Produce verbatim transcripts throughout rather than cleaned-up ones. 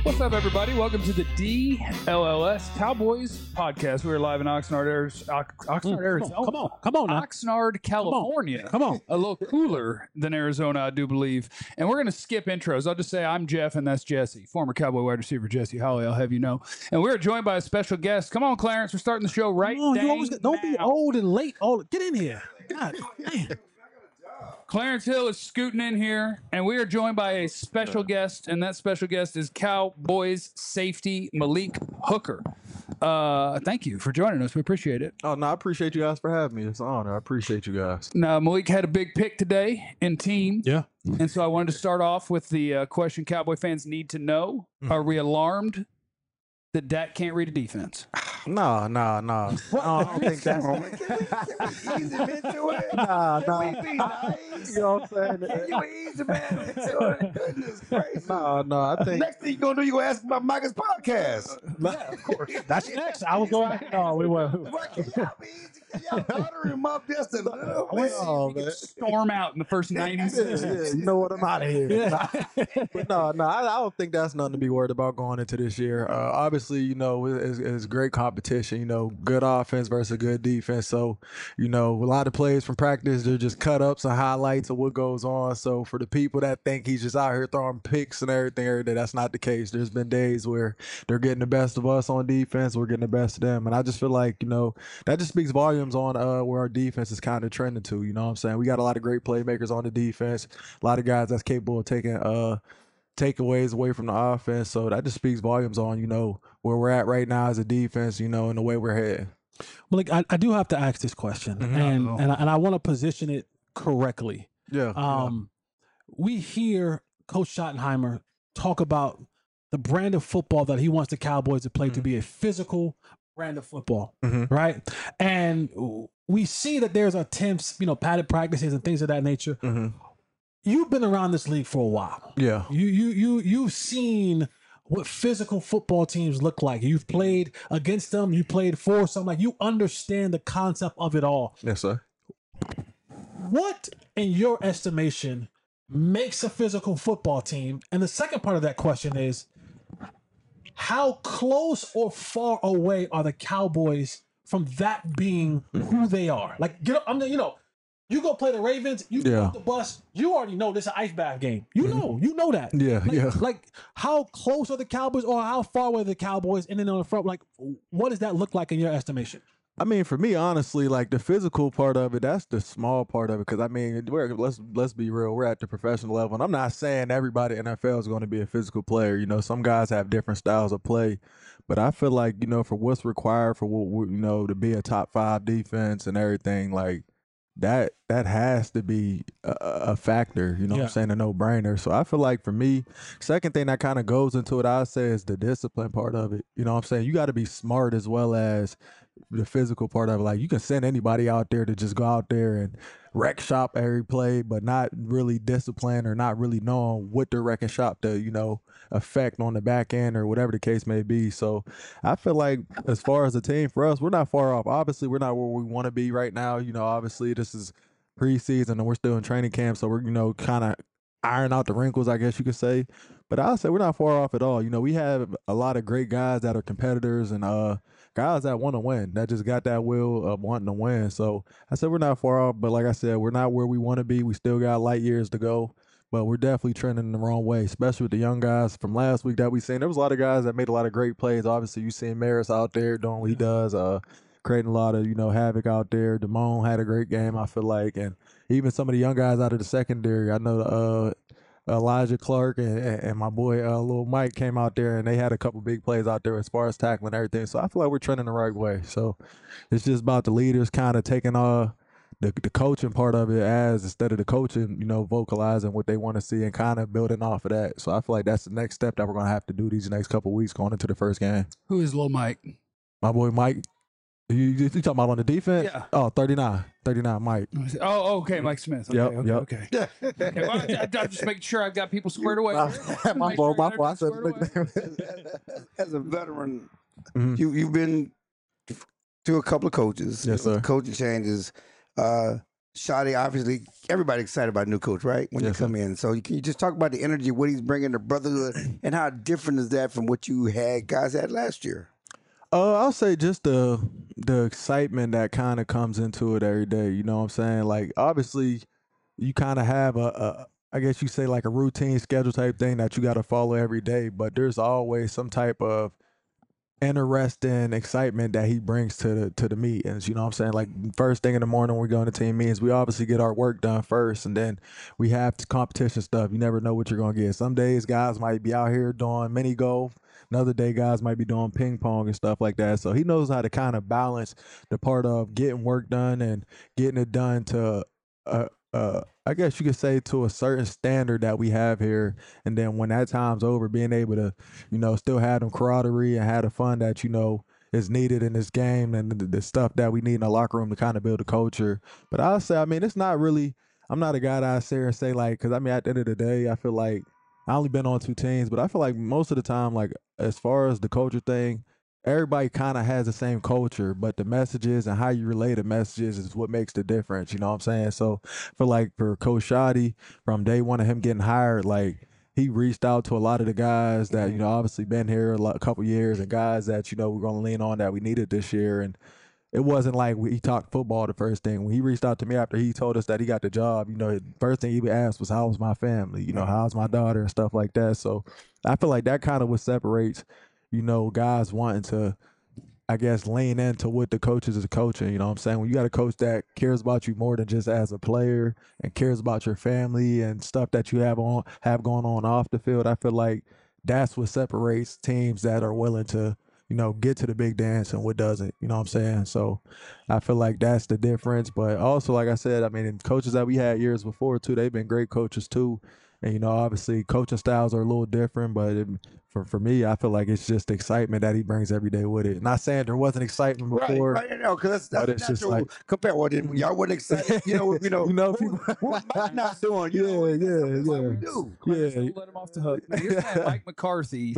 What's up, everybody? Welcome to the D L L S Cowboys podcast. We're live in Oxnard, Arizona. Oxnard, Arizona. Come on, come on, now. Oxnard, California. Come on. A little cooler than Arizona, I do believe. And we're going to skip intros. I'll just say I'm Jeff, and that's Jesse, former Cowboy wide receiver Jesse Holley. I'll have you know. And we're joined by a special guest. Come on, Clarence. We're starting the show right Come on, you dang always, don't be now. old and late. Oh, get in here. God damn. Clarence Hill is scooting in here, and we are joined by a special guest, and that special guest is Cowboys safety Malik Hooker. Uh, thank you for joining us. We appreciate it. Oh, no, I appreciate you guys for having me. It's an honor. I appreciate you guys. Now, Malik had a big pick today in team. Yeah. And so I wanted to start off with the uh, question Cowboy fans need to know. Mm. Are we alarmed that Dak can't read a defense? No, no, no. I don't think that's... Can we, can we ease him into it? Nah, Can nah. we be nice? You know what I'm saying? Can you ease him into it? Goodness gracious. No, no, I think... Next thing you're going to do, you're going to ask about Micah's podcast. Yeah, of course. That's next. I was going. No, we were. What, can y'all be easy? Can y'all butter him up just a little bit? Oh, man. Storm out in the first ninety Yeah, seconds. yeah, you know what? I'm out of here. Yeah. But no, no, I, I don't think that's nothing to be worried about going into this year. Uh, obviously, you know, it's, it's great competition, you know, good offense versus good defense. So, you know, a lot of plays from practice, they're just cut ups and highlights of what goes on. So for the people that think he's just out here throwing picks and everything every day, that's not the case. There's been days where they're getting the best of us on defense, we're getting the best of them. And I just feel like, you know, that just speaks volumes on uh, where our defense is kind of trending to, you know what I'm saying? We got a lot of great playmakers on the defense, a lot of guys that's capable of taking uh takeaways away from the offense. So that just speaks volumes on, you know, where we're at right now as a defense, you know, and the way we're heading. Well, like, I, I do have to ask this question, Mhm. and Uh-oh. and I, and I want to position it correctly. Yeah. Um, we hear Coach Schottenheimer talk about the brand of football that he wants the Cowboys to play to Mhm. be a physical brand of football, Mhm. right? And we see that there's attempts, you know, padded practices and things of that nature. hmm You've been around this league for a while. Yeah. You you you you've seen what physical football teams look like. You've played against them. You played for some. Like, you understand the concept of it all. Yes, sir. What, in your estimation, makes a physical football team? And the second part of that question is, how close or far away are the Cowboys from that being who they are? Like, get up, I'm the, you know, you go play the Ravens, you Yeah. go off the bus, you already know this is an ice bath game. You know, you know that. Yeah, Like, yeah. like, how close are the Cowboys, or how far away are the Cowboys? And then on the front, like, what does that look like in your estimation? I mean, for me, honestly, like the physical part of it, that's the small part of it. Because I mean, we're, let's let's be real, we're at the professional level, and I'm not saying everybody in N F L is going to be a physical player. You know, some guys have different styles of play, but I feel like, you know, for what's required for what we- you know to be a top five defense and everything, like that that has to be a, a factor. You know, what Yeah. I'm saying, a no brainer. So I feel like for me, second thing that kind of goes into it, I say, is the discipline part of it. You know, what I'm saying, you got to be smart as well as the physical part of it. Like, you can send anybody out there to just go out there and wreck shop every play, but not really disciplined or not really knowing what they're wrecking shop to, you know, affect on the back end or whatever the case may be. So I feel like as far as a team, for us, we're not far off. Obviously, we're not where we want to be right now. You know, obviously this is preseason and we're still in training camp, so we're, you know, kind of iron out the wrinkles, I guess you could say. But I'll say we're not far off at all. You know, we have a lot of great guys that are competitors and uh guys that want to win, that just got that will of wanting to win. So I said we're not far off, but like I said, we're not where we want to be. We still got light years to go, but we're definitely trending in the wrong way, especially with the young guys from last week that we seen. There was a lot of guys that made a lot of great plays. Obviously, you seen Maris out there doing what he does, uh, creating a lot of, you know, havoc out there. Damone had a great game, I feel like, and even some of the young guys out of the secondary. I know uh, Elijah Clark and, and my boy uh, Lil Mike came out there, and they had a couple big plays out there as far as tackling and everything. So I feel like we're trending the right way. So it's just about the leaders kind of taking uh, the the coaching part of it as instead of the coaching, you know, vocalizing what they want to see and kind of building off of that. So I feel like that's the next step that we're going to have to do these next couple weeks going into the first game. Who is Lil Mike? My boy Mike. You, you, you talking about on the defense? Yeah. Oh, thirty-nine. thirty-nine, Mike. Oh, okay, Mike Smith. Okay, Yep, okay, yep. okay. Okay, well, I, I, I'm just making sure I've got people squared away. my Make fault, sure my fault. I said everything's squared away. As a veteran, Mhm. you, you've been to a couple of coaches. Yes, sir. Coaching changes. Uh, Shadi, obviously, everybody excited about new coach, right? When Yes, you come in. So can you just talk about the energy, what he's bringing, the brotherhood, and how different is that from what you had guys had last year? Uh, I'll say just the the excitement that kind of comes into it every day. You know what I'm saying? Like obviously, you kind of have a, a, I guess you say like a routine schedule type thing that you got to follow every day. But there's always some type of interesting excitement that he brings to the to the meetings. You know what I'm saying? Like first thing in the morning when we go into team meetings, we obviously get our work done first, and then we have competition stuff. You never know what you're gonna get. Some days guys might be out here doing mini golf. Another day guys might be doing ping pong and stuff like that. So he knows how to kind of balance the part of getting work done and getting it done to uh uh I guess you could say to a certain standard that we have here. And then when that time's over, being able to you know, still had them camaraderie and had the fun that, you know, is needed in this game and the, the stuff that we need in the locker room to kind of build a culture. But I'll say, I mean, it's not really, I'm not a guy that I sit here and say, like, because I mean, at the end of the day, I feel like I only been on two teams, but I feel like most of the time, like, as far as the culture thing, everybody kind of has the same culture, but the messages and how you relay the messages is what makes the difference. You know what I'm saying? So for like for Coach Shadi, from day one of him getting hired, like he reached out to a lot of the guys that you know obviously been here a, lot, a couple years and guys that you know we're gonna lean on that we needed this year. And it wasn't like we, he talked football the first thing. When he reached out to me after he told us that he got the job, you know, the first thing he asked was, "How was my family? You know, how's my daughter and stuff like that." So I feel like that kind of what separates, you know, guys wanting to, I guess, lean into what the coaches is coaching. You know what I'm saying? When you got a coach that cares about you more than just as a player and cares about your family and stuff that you have on have going on off the field, I feel like that's what separates teams that are willing to, you know, get to the big dance and what doesn't. You know what I'm saying? So I feel like that's the difference. But also, like I said, I mean, coaches that we had years before too, they've been great coaches too. And you know, obviously, coaching styles are a little different, but it, for for me, I feel like it's just excitement that he brings every day with it. Not saying there wasn't excitement before, right, right, no, because that's, but that's it's just natural. like Compare what did y'all wasn't excited, you know, you know, you know, what, people, what Mike not doing, you know, yeah, that's, yeah, that's what we yeah, do. Clarence, yeah. don't let him off the hook. Now, you're saying Mike McCarthy.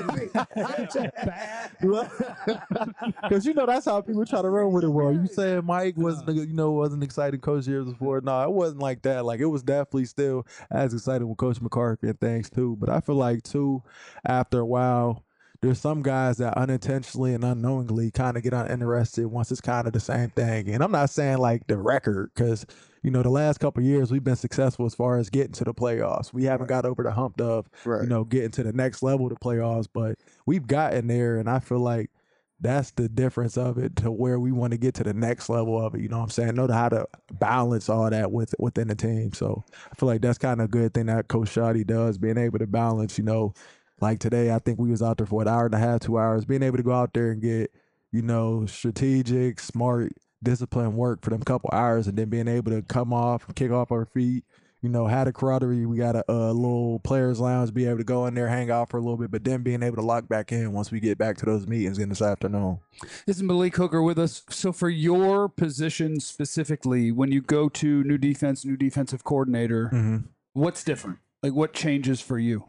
Because you know that's how people try to run with it. Well, you saying Mike wasn't, a- you know, wasn't an exciting coach years before? No, it wasn't like that. Like it was definitely still as exciting with Coach McCarthy and things too. But I feel like too, after a while, there's some guys that unintentionally and unknowingly kind of get uninterested once it's kind of the same thing. And I'm not saying like the record, because you know the last couple of years we've been successful as far as getting to the playoffs. We haven't got over the hump of Right. you know getting to the next level of the playoffs, but we've gotten there, and I feel like that's the difference of it to where we want to get to the next level of it. You know what I'm saying? Know how to balance all that with within the team. So I feel like that's kind of a good thing that Coach Shadi does, being able to balance, you know, like today, I think we was out there for an hour and a half, two hours, being able to go out there and get, you know, strategic, smart, disciplined work for them couple hours, and then being able to come off, kick off our feet, you know, had a camaraderie. We got a, a little players lounge, be able to go in there, hang out for a little bit, but then being able to lock back in once we get back to those meetings in this afternoon. This is Malik Hooker with us. So, for your position specifically, when you go to new defense, new defensive coordinator, Mm-hmm. what's different? Like, what changes for you?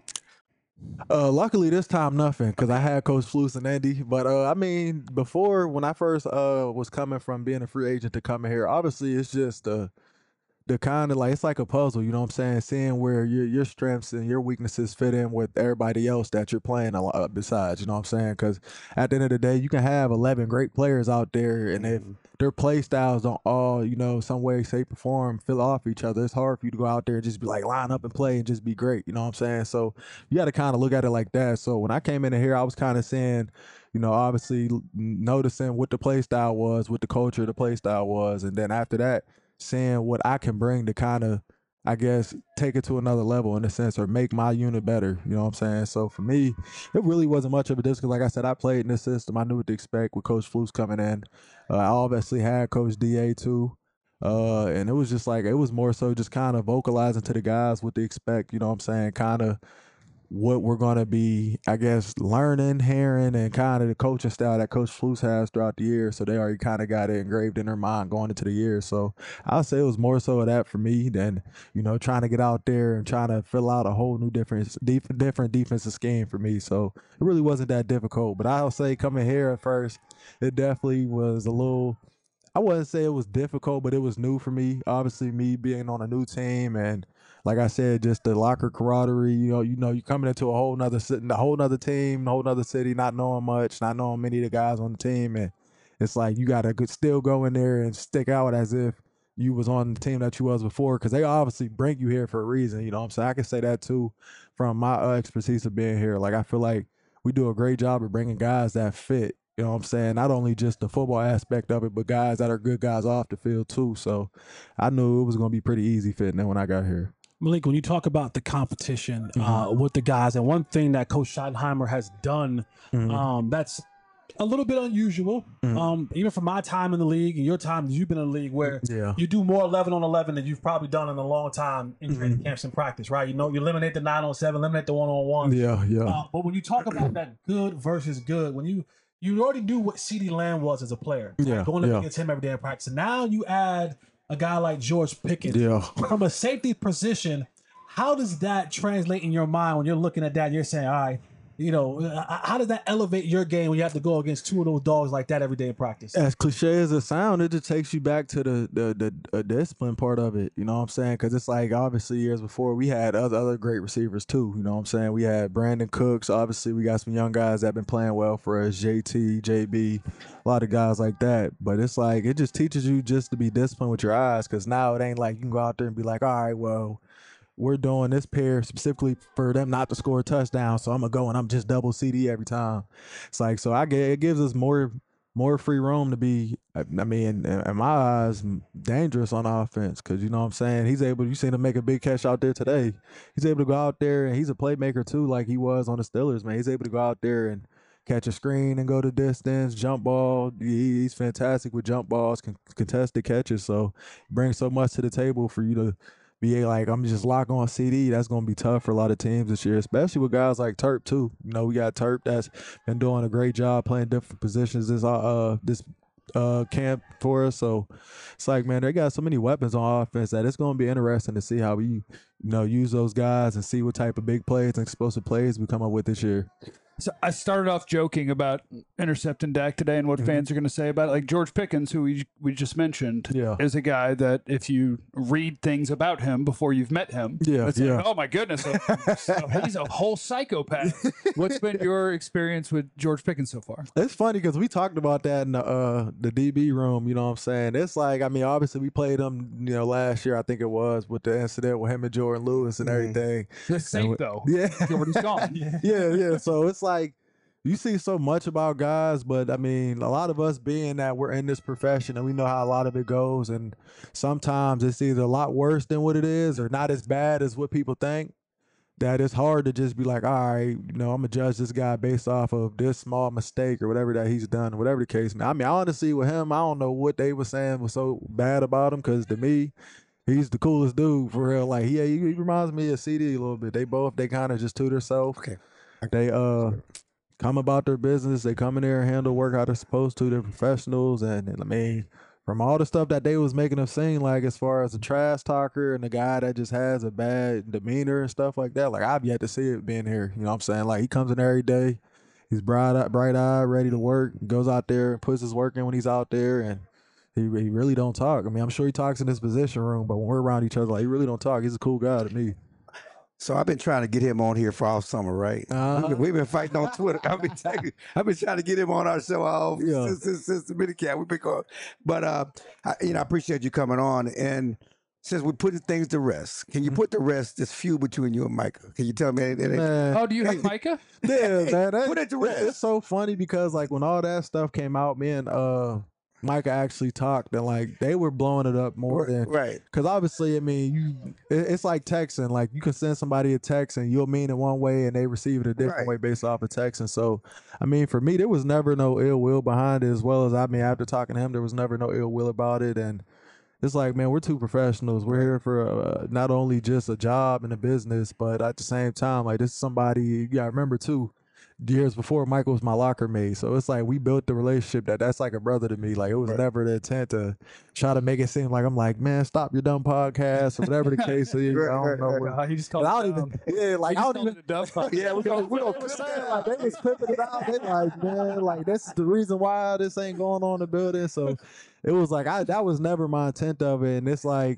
Uh, luckily this time nothing, because I had Coach Flus and Andy. But uh, I mean, before when I first uh was coming from being a free agent to coming here, obviously it's just uh the kind of like it's like a puzzle, you know what I'm saying? Seeing where your your strengths and your weaknesses fit in with everybody else that you're playing a lot besides, you know what I'm saying? Because at the end of the day, you can have eleven great players out there, and if their play styles don't all, you know, some way, shape, or form fill off each other, it's hard for you to go out there and just be like line up and play and just be great, you know what I'm saying? So you got to kind of look at it like that. So when I came in here, I was kind of saying, you know, obviously noticing what the play style was, what the culture of the play style was, and then after that, seeing what I can bring to kind of, I guess, take it to another level in a sense, or make my unit better. You know what I'm saying? So for me, it really wasn't much of a difference. Like I said, I played in this system. I knew what to expect with Coach Flus coming in. Uh, I obviously had Coach D A too. Uh, and it was just like, it was more so just kind of vocalizing to the guys what to expect. You know what I'm saying? Kind of what we're going to be, I guess, learning, hearing, and kind of the coaching style that Coach Flus has throughout the year. So they already kind of got it engraved in their mind going into the year. So I'll say it was more so of that for me than, you know, trying to get out there and trying to fill out a whole new different, def- different defensive scheme for me. So it really wasn't that difficult. But I'll say coming here at first, it definitely was a little, I wouldn't say it was difficult, but it was new for me. Obviously, me being on a new team, and like I said, just the locker camaraderie. You know, you know, you coming into a whole nother, a whole nother team, a whole nother city, not knowing much, not knowing many of the guys on the team, and it's like you gotta still go in there and stick out as if you was on the team that you was before, because they obviously bring you here for a reason. You know what I'm saying? I can say that too from my uh, expertise of being here. Like I feel like we do a great job of bringing guys that fit. You know what I'm saying? Not only just the football aspect of it, but guys that are good guys off the field too. So I knew it was going to be pretty easy fitting in when I got here. Malik, when you talk about the competition Mhm. uh, with the guys, and one thing that Coach Schottenheimer has done Mhm. um, that's a little bit unusual, Mhm. um, even from my time in the league and your time that you've been in the league, where Yeah. you do more eleven on eleven than you've probably done in a long time in training camps and practice, right? You know, you eliminate the nine on seven, eliminate the one on one. Yeah, yeah. Uh, but when you talk about that good versus good, when you you already knew what CeeDee Lamb was as a player, Yeah, going up yeah. against him every day in practice, and now you add a guy like George Pickens Yeah. from a safety position. How does that translate in your mind when you're looking at that and you're saying, all right, you know, uh, how does that elevate your game when you have to go against two of those dogs like that every day in practice? As cliche as it sounds, it just takes you back to the the the uh, discipline part of it. You know what I'm saying? Because it's like obviously years before we had other other great receivers too. You know what I'm saying? We had Brandon Cooks. Obviously, we got some young guys that been playing well for us. J T, J B, a lot of guys like that. But it's like it just teaches you just to be disciplined with your eyes. Because now it ain't like you can go out there and be like, all right, well, we're doing this pair specifically for them not to score a touchdown, so I'm gonna go and I'm just double C D every time. It's like so I get it gives us more more free room to be. I mean, in, in my eyes, dangerous on offense because you know what I'm saying. He's able. You seen him make a big catch out there today. He's able to go out there and he's a playmaker too, like he was on the Steelers. Man, he's able to go out there and catch a screen and go to distance, jump ball. He, he's fantastic with jump balls, con- contested catches. So he brings so much to the table for you to be like, I'm just lock on C D. That's going to be tough for a lot of teams this year, especially with guys like Turp too. You know, we got Turp that's been doing a great job playing different positions this uh this uh camp for us. So it's like, man, they got so many weapons on offense that it's going to be interesting to see how we, you know, use those guys and see what type of big plays and explosive plays we come up with this year. So I started off joking about intercepting Dak today and what Mhm. fans are going to say about it. Like George Pickens, who we we just mentioned, Yeah. is a guy that if you read things about him before you've met him, Yeah, it's yeah. like, oh my goodness, so, so he's a whole psychopath. What's been your experience with George Pickens so far? It's funny because we talked about that in the uh, the D B room. You know what I'm saying? It's like, I mean, obviously we played him, you know, last year I think it was with the incident with him and Jordan Lewis and Mhm. everything. It's safe And- though. Yeah, Jordan's gone. yeah, yeah. So it's like you see so much about guys, but I mean, a lot of us being that we're in this profession and we know how a lot of it goes, and sometimes it's either a lot worse than what it is or not as bad as what people think. That it's hard to just be like, all right, you know, I'm gonna judge this guy based off of this small mistake or whatever that he's done, whatever the case. I mean, honestly, with him, I don't know what they were saying was so bad about him because to me, he's the coolest dude for real. Like, he, he reminds me of C D a little bit. They both, they kind of just to themselves. Okay. They uh come about their business. They come in there and handle work how they're supposed to. They're professionals, and, and I mean, from all the stuff that they was making him seem like, as far as a trash talker and the guy that just has a bad demeanor and stuff like that, like I've yet to see it being here. You know what I'm saying? Like he comes in every day, he's bright, bright eyed, ready to work. Goes out there and puts his work in when he's out there, and he he really don't talk. I mean, I'm sure he talks in his position room, but when we're around each other, like he really don't talk. He's a cool guy to me. So I've been trying to get him on here for all summer, right? Uh-huh. We've, been, we've been fighting on Twitter. I've been, taking, I've been trying to get him on our show all Yeah. since, since, since the minicamp. We've been going, but uh, I, you know, I appreciate you coming on. And since we're putting things to rest, can you put to rest this feud between you and Micah? Can you tell me anything? Man. Oh, do you hate Micah? Yeah, man. That, Put it to it- rest. It's so funny because like when all that stuff came out, me and uh Micah actually talked, and like they were blowing it up more than Right. because obviously, I mean, you it, it's like texting. Like you can send somebody a text and you'll mean it one way and they receive it a different Right. way based off of texting. So, I mean, for me, there was never no ill will behind it. As well as I mean, after talking to him, there was never no ill will about it, and it's like, man, we're two professionals. We're here for uh, not only just a job and a business, but at the same time, like this is somebody you gotta remember too. Years before, Michael was my locker mate, so it's like we built the relationship that that's like a brother to me. Like it was Right. never the intent to try to make it seem like I'm like, man, stop your dumb podcast or whatever the case is. Right, I don't right, know. right. what- Uh, he just And called I it don't dumb. even, yeah, like He I just don't called even. it a dumb podcast. Yeah, we gonna, we They gonna was saying, like they was clipping it out. They like, man, like this is the reason why this ain't going on in the building. So it was like I that was never my intent of it, and it's like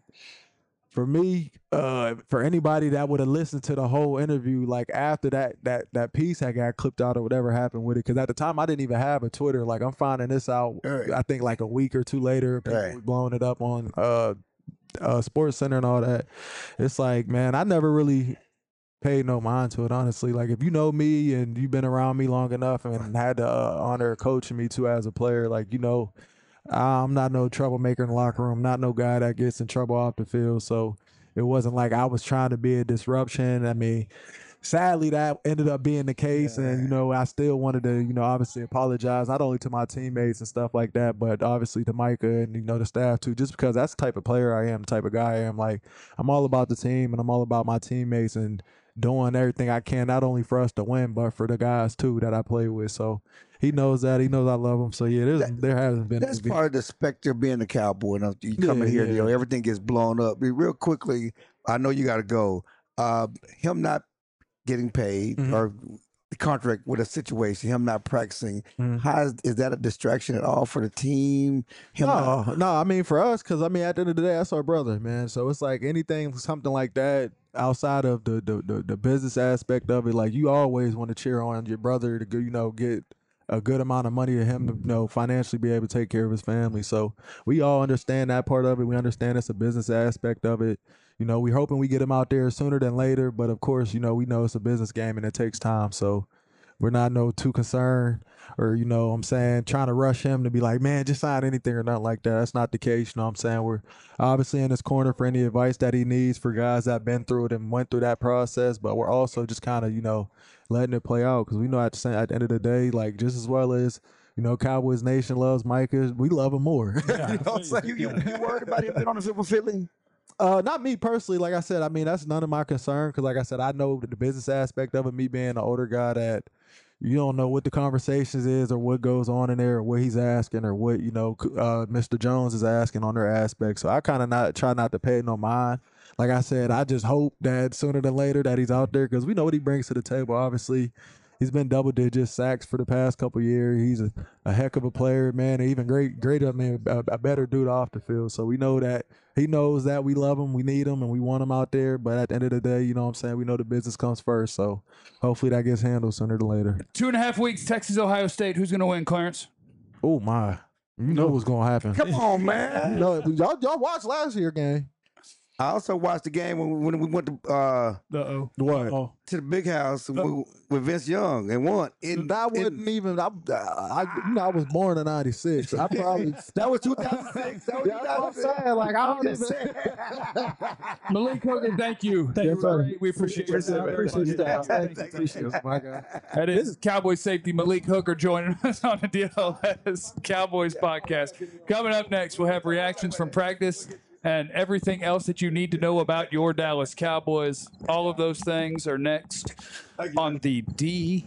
for me, uh, for anybody that would have listened to the whole interview, like after that that that piece had got clipped out or whatever happened with it, because at the time I didn't even have a Twitter. Like I'm finding this out, Right. I think like a week or two later, people Right. were blowing it up on uh, uh, Sports Center and all that. It's like, man, I never really paid no mind to it, honestly. Like if you know me and you've been around me long enough and had the uh, honor of coaching me too as a player, like you know. I'm not no troublemaker in the locker room, not no guy that gets in trouble off the field. So it wasn't like I was trying to be a disruption. I mean, sadly, that ended up being the case. And, you know, I still wanted to, you know, obviously apologize, not only to my teammates and stuff like that, but obviously to Micah and, you know, the staff too, just because that's the type of player I am, the type of guy I am. Like, I'm all about the team and I'm all about my teammates and doing everything I can, not only for us to win, but for the guys too that I play with. So he knows that. He knows I love him. So yeah, there's, That- there hasn't been. That's part of the specter of being a Cowboy. Now, you come in Yeah, here, yeah. you know, everything gets blown up. Be Real quickly, I know you got to go. Uh, him not getting paid Mhm. or the contract with a situation, him not practicing, Mhm. how is, is that a distraction at all for the team? Him not- No, no, I mean for us, because I mean at the end of the day, that's our brother, man. So it's like anything, something like that, outside of the the the, the business aspect of it, like you always want to cheer on your brother to go, you know, get a good amount of money to him to, you know, financially be able to take care of his family. So we all understand that part of it. We understand it's a business aspect of it. You know, we're hoping we get him out there sooner than later, but of course, you know, we know it's a business game and it takes time. So we're not no too concerned or, you know what I'm saying, trying to rush him to be like, man, just sign anything or nothing like that. That's not the case. You know what I'm saying? We're obviously in his corner for any advice that he needs for guys that have been through it and went through that process. But we're also just kind of, you know, letting it play out because we know at the, same, at the end of the day, like just as well as, you know, Cowboys Nation loves Micah, we love him more. You know what I'm saying? you, you, you worried about him being on the field with Philly? Uh, not me personally. Like I said, I mean, that's none of my concern because, like I said, I know the business aspect of it, me being an older guy that you don't know what the conversations is or what goes on in there or what he's asking or what, you know, uh, Mister Jones is asking on their aspect. So I kind of not try not to pay no mind. Like I said, I just hope that sooner than later that he's out there because we know what he brings to the table. Obviously, he's been double digit sacks for the past couple of years. He's a, a heck of a player, man. And even great, great, I mean, a, a better dude off the field. So we know that he knows that we love him, we need him, and we want him out there. But at the end of the day, you know what I'm saying? We know the business comes first. So hopefully that gets handled sooner than later. Two and a half weeks, Texas, Ohio State. Who's going to win, Clarence? Oh, my. You know what's going to happen. Come on, You man. know, y'all, y'all watched last year's game. I also watched the game when, when we went to uh, Uh-oh. What? Oh, to the big house with, with Vince Young and won. In, That in- wasn't even. I, I, you know, I was born in ninety-six. I probably. that was two thousand six. That was Yeah, that's what I'm two thousand six. saying. Like, I don't I'm just even. saying. Malik Hooker, thank you. Thank you, You're sir. great. We appreciate your time. Appreciate your time. Thank you. Appreciate it, my guy. That is Cowboy safety Malik Hooker joining us on the D L S Cowboys podcast. Coming up next, we'll have reactions from practice and everything else that you need to know about your Dallas Cowboys. All of those things are next on the D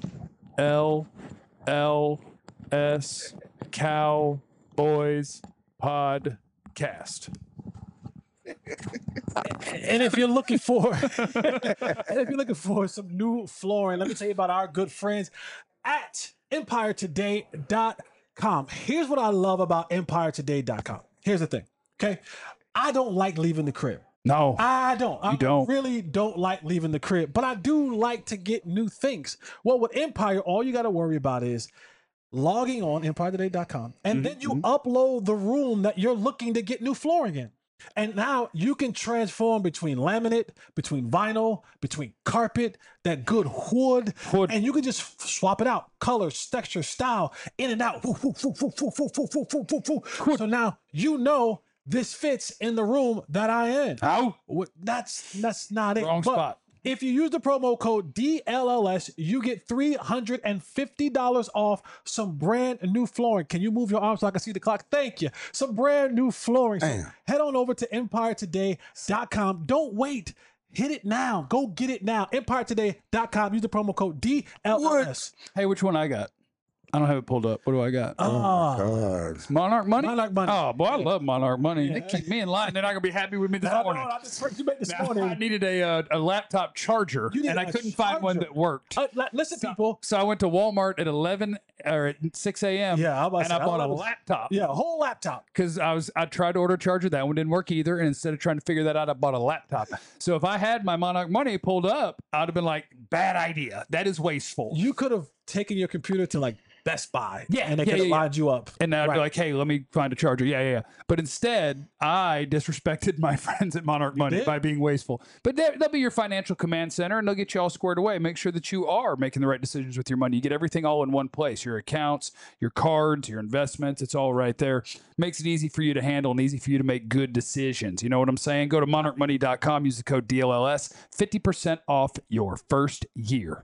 L L S Cowboys podcast. and if you're looking for, and if you're looking for some new flooring, let me tell you about our good friends at empire today dot com. Here's what I love about empire today dot com. Here's the thing, okay? I don't like leaving the crib. No. I don't. I don't. really don't like leaving the crib, but I do like to get new things. Well, with Empire, all you got to worry about is logging on empire today dot com, and then you upload the room that you're looking to get new flooring in. And now you can transform between laminate, between vinyl, between carpet, that good wood, Wood. and you can just swap it out. Colors, texture, style, in and out. Woo, woo, woo, woo, woo, woo, woo, woo, woo, woo, woo. So now you know this fits in the room that I in. Ow. What- That's that's not it. Wrong But spot. if you use the promo code D L L S, you get three hundred fifty dollars off some brand new flooring. Can you move your arm so I can see the clock? Thank you. Some brand new flooring. So Damn. head on over to empire today dot com. Don't wait. Hit it now. Go get it now. empire today dot com. Use the promo code D L L S. Hey, which one I got? I don't have it pulled up. What do I got? Ah, God. Monarch money? Monarch money. Oh, boy, I love Monarch money. They keep me in line. They're not going to be happy with me this no, no, morning. I just heard you made this I morning. needed a uh, a laptop charger, You need and I a couldn't find one charger. that worked. Uh, li- listen, people. So I went to Walmart at eleven or at six a.m. Yeah, I was and I bought a laptop. Yeah, a whole laptop. Because I was I tried to order a charger, that one didn't work either, and instead of trying to figure that out, I bought a laptop. So if I had my Monarch money pulled up, I'd have been like, bad idea. That is wasteful. You could have taken your computer to like Best Buy. Yeah, and they yeah, could have yeah, yeah. lined you up. And then I'd Right. be like, hey, let me find a charger. Yeah, yeah, yeah. But instead, I disrespected my friends at Monarch Money did? by being wasteful. But they- they'll be your financial command center, and they'll get you all squared away. Make sure that you are making the right decisions with your money. You get everything all in one place. Your accounts, your cards, your investments, it's all right there. Makes it easy for you to handle and easy for you to make good decisions. You know what I'm saying? Go to monarch money dot com, use the code D L L S, fifty percent off your first year.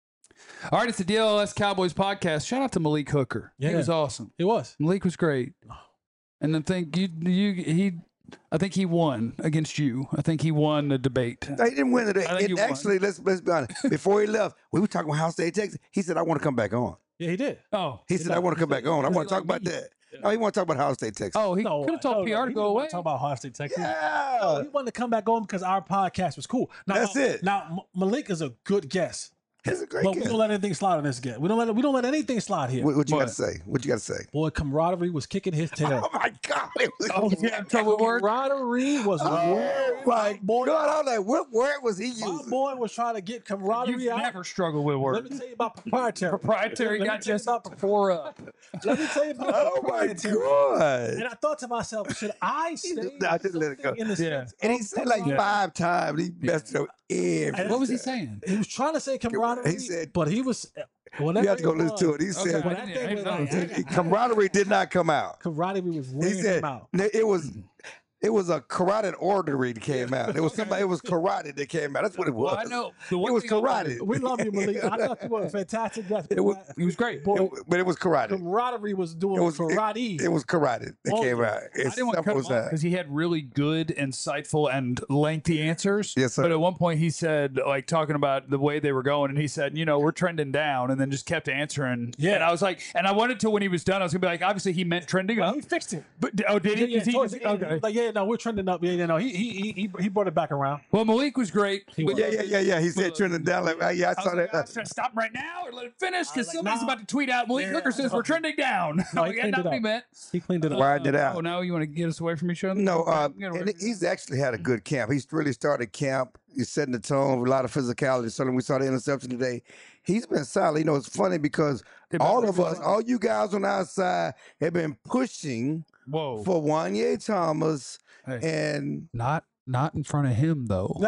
All right, it's the D L L S Cowboys podcast. Shout out to Malik Hooker. He Yeah. was awesome. It was. Malik was great, and I think you, you, he, I think he won against you. I think he won the debate. He didn't win today. I think And you won. actually, let's let's be honest. Before he left, we were talking about Ohio State, Texas. He said, "I want to come back on." Yeah, he did. Oh, He said, "I want to come back on. I want to talk about that." No, he want to talk about Ohio State, Texas. oh, he No, could have told no, P R no, to he go didn't away. wanna Talk about Ohio State, Texas. yeah. No, he wanted to come back on because our podcast was cool. Now, That's now- it. Now M- Malik is a good guest, It's a great but we game. don't let anything slide on this guest. We don't let we don't let anything slide here. What, what you got What? to say? What you got to say? Boy, camaraderie was kicking his tail. Oh my God! It was, Oh, he's having trouble with words. Camaraderie was Oh my boy. God! I was like, what word was he My using? boy was trying to get camaraderie You've out. never struggled with Let words. me tell you about proprietary. Proprietary Let me got tell you just about four up. Let me tell you about Oh my proprietary. God! And I thought to myself, should I say No, I just let it go. something in the Yeah. sense And he of said like camaraderie? five times. He messed up every. What was he saying? He was trying to say camaraderie, He said- but he was. You have to go listen to it. He Okay, said I When that didn't- thing I was didn't like, know. camaraderie did not come out. camaraderie was He wearing said him out. it was it was a carotid artery that came out. It was somebody. It was carotid that came out. That's what it was. Well, I know. The It one was thing I- carotid. We love you, Malik. I thought you were a fantastic guest. It was- He was great. Boy, It- but it was carotid. camaraderie was doing It was karate. It, it was carotid that Oh, came out. I It's didn't want to cut simple him as off because that. he had really good, insightful, and lengthy answers. Yes, sir. But at one point, he said, like, talking about the way they were going, and he said, you know, we're trending down, and then just kept answering. Yeah. And I was like, and I wanted to, when he was done, I was going to be like, obviously, he meant trending up. he fixed it. But, oh, did he? Yeah, yeah, 'Cause he towards just- the end, okay. Like, yeah, no, we're trending up. Yeah, yeah, no, he he he he, he brought it back around. Well, Malik was great. He was. Yeah, yeah, yeah, yeah. He said trending down. Like, oh, yeah, I I saw was like, that. "Oh, should I stop him right now or let it finish? Because like, somebody's nah. about to tweet out. Malik Yeah. Hooker says we're trending down. No, I'm he like, cleaned not it what he up. meant. He cleaned it up. Widen it out. Oh, now you want to get us away from each other? No, Okay, uh, get away and from- he's actually had a good camp. He's really started camp. He's setting the tone with a lot of physicality. So we saw the interception today. He's been solid. You know, it's funny because Hey, all but- of us, all you guys on our side, have been pushing Whoa. for Wanye Thomas Hey. and Not not in front of him though.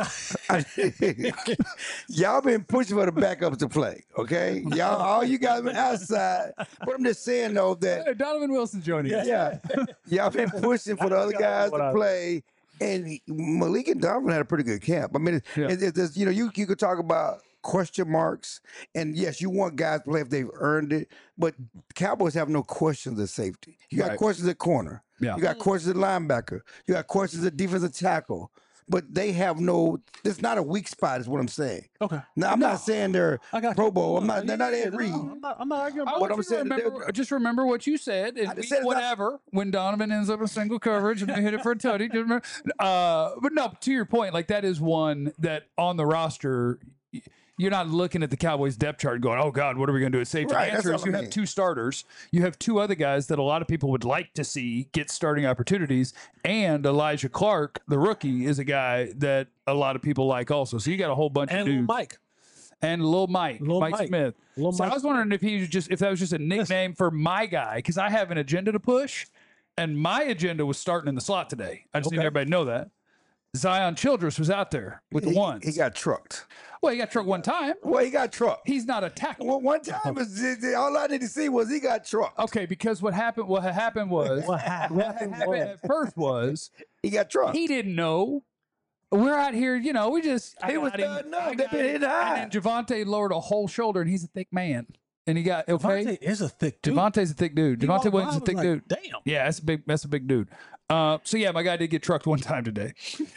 y'all been pushing for the backups to play. Okay, y'all, all you guys been outside. But I'm just saying though that Hey, Donovan Wilson joining us. yeah, y'all been pushing for the other guys What to I- play. And he- Malik and Donovan had a pretty good camp. I mean, it, Yeah. it, it's you know, you you could talk about question marks, and yes, you want guys to play if they've earned it. But Cowboys have no questions at safety. You got Right. questions at corner. Yeah. You got questions at linebacker. You got questions at defensive tackle. But they have no. It's not a weak spot, is what I'm saying. Okay. Now I'm not saying they're I got Pro you. Bowl. I'm not. Yeah, They're not yeah, Ed no, Reed. I'm not, I'm not arguing I about What want I'm you to saying, they're- remember, just remember what you said. And I just we- said it's not- whatever. When Donovan ends up in single coverage and they hit it for a tutty. Just remember. Uh, but no, to your point, like that is one that on the roster, y- you're not looking at the Cowboys depth chart and going, "Oh God, what are we going to do at safety?" Right, The that's answer is all I you mean. have two starters. You have two other guys that a lot of people would like to see get starting opportunities, and Elijah Clark, the rookie, is a guy that a lot of people like also. So you got a whole bunch and of Lil dudes. Mike. And Lil Mike, Lil Mike, Mike. Smith. Lil so Mike I was wondering if he was just if that was just a nickname for my guy because I have an agenda to push, and my agenda was starting in the slot today. I just need Okay. everybody to know that Zion Childress was out there with the He- ones. He got trucked. well, he got trucked one time. Well, he got trucked. He's not a tackle. Well, one time, is- all I need to see was he got trucked. Okay, because what happened? What had happened was What happened? what happened at first was He got trucked. he didn't know. We're out here, you know. We just I He was got him, done up. I They got been him. hitting high. And then Javante lowered a whole shoulder, and he's a thick man, and he got okay. Devontae is a thick dude. Javante's a thick dude. He Javante walked Williams is a by, I thick was dude. like, Damn. Yeah, that's a big that's a big dude. Uh, so yeah, my guy did get trucked one time today,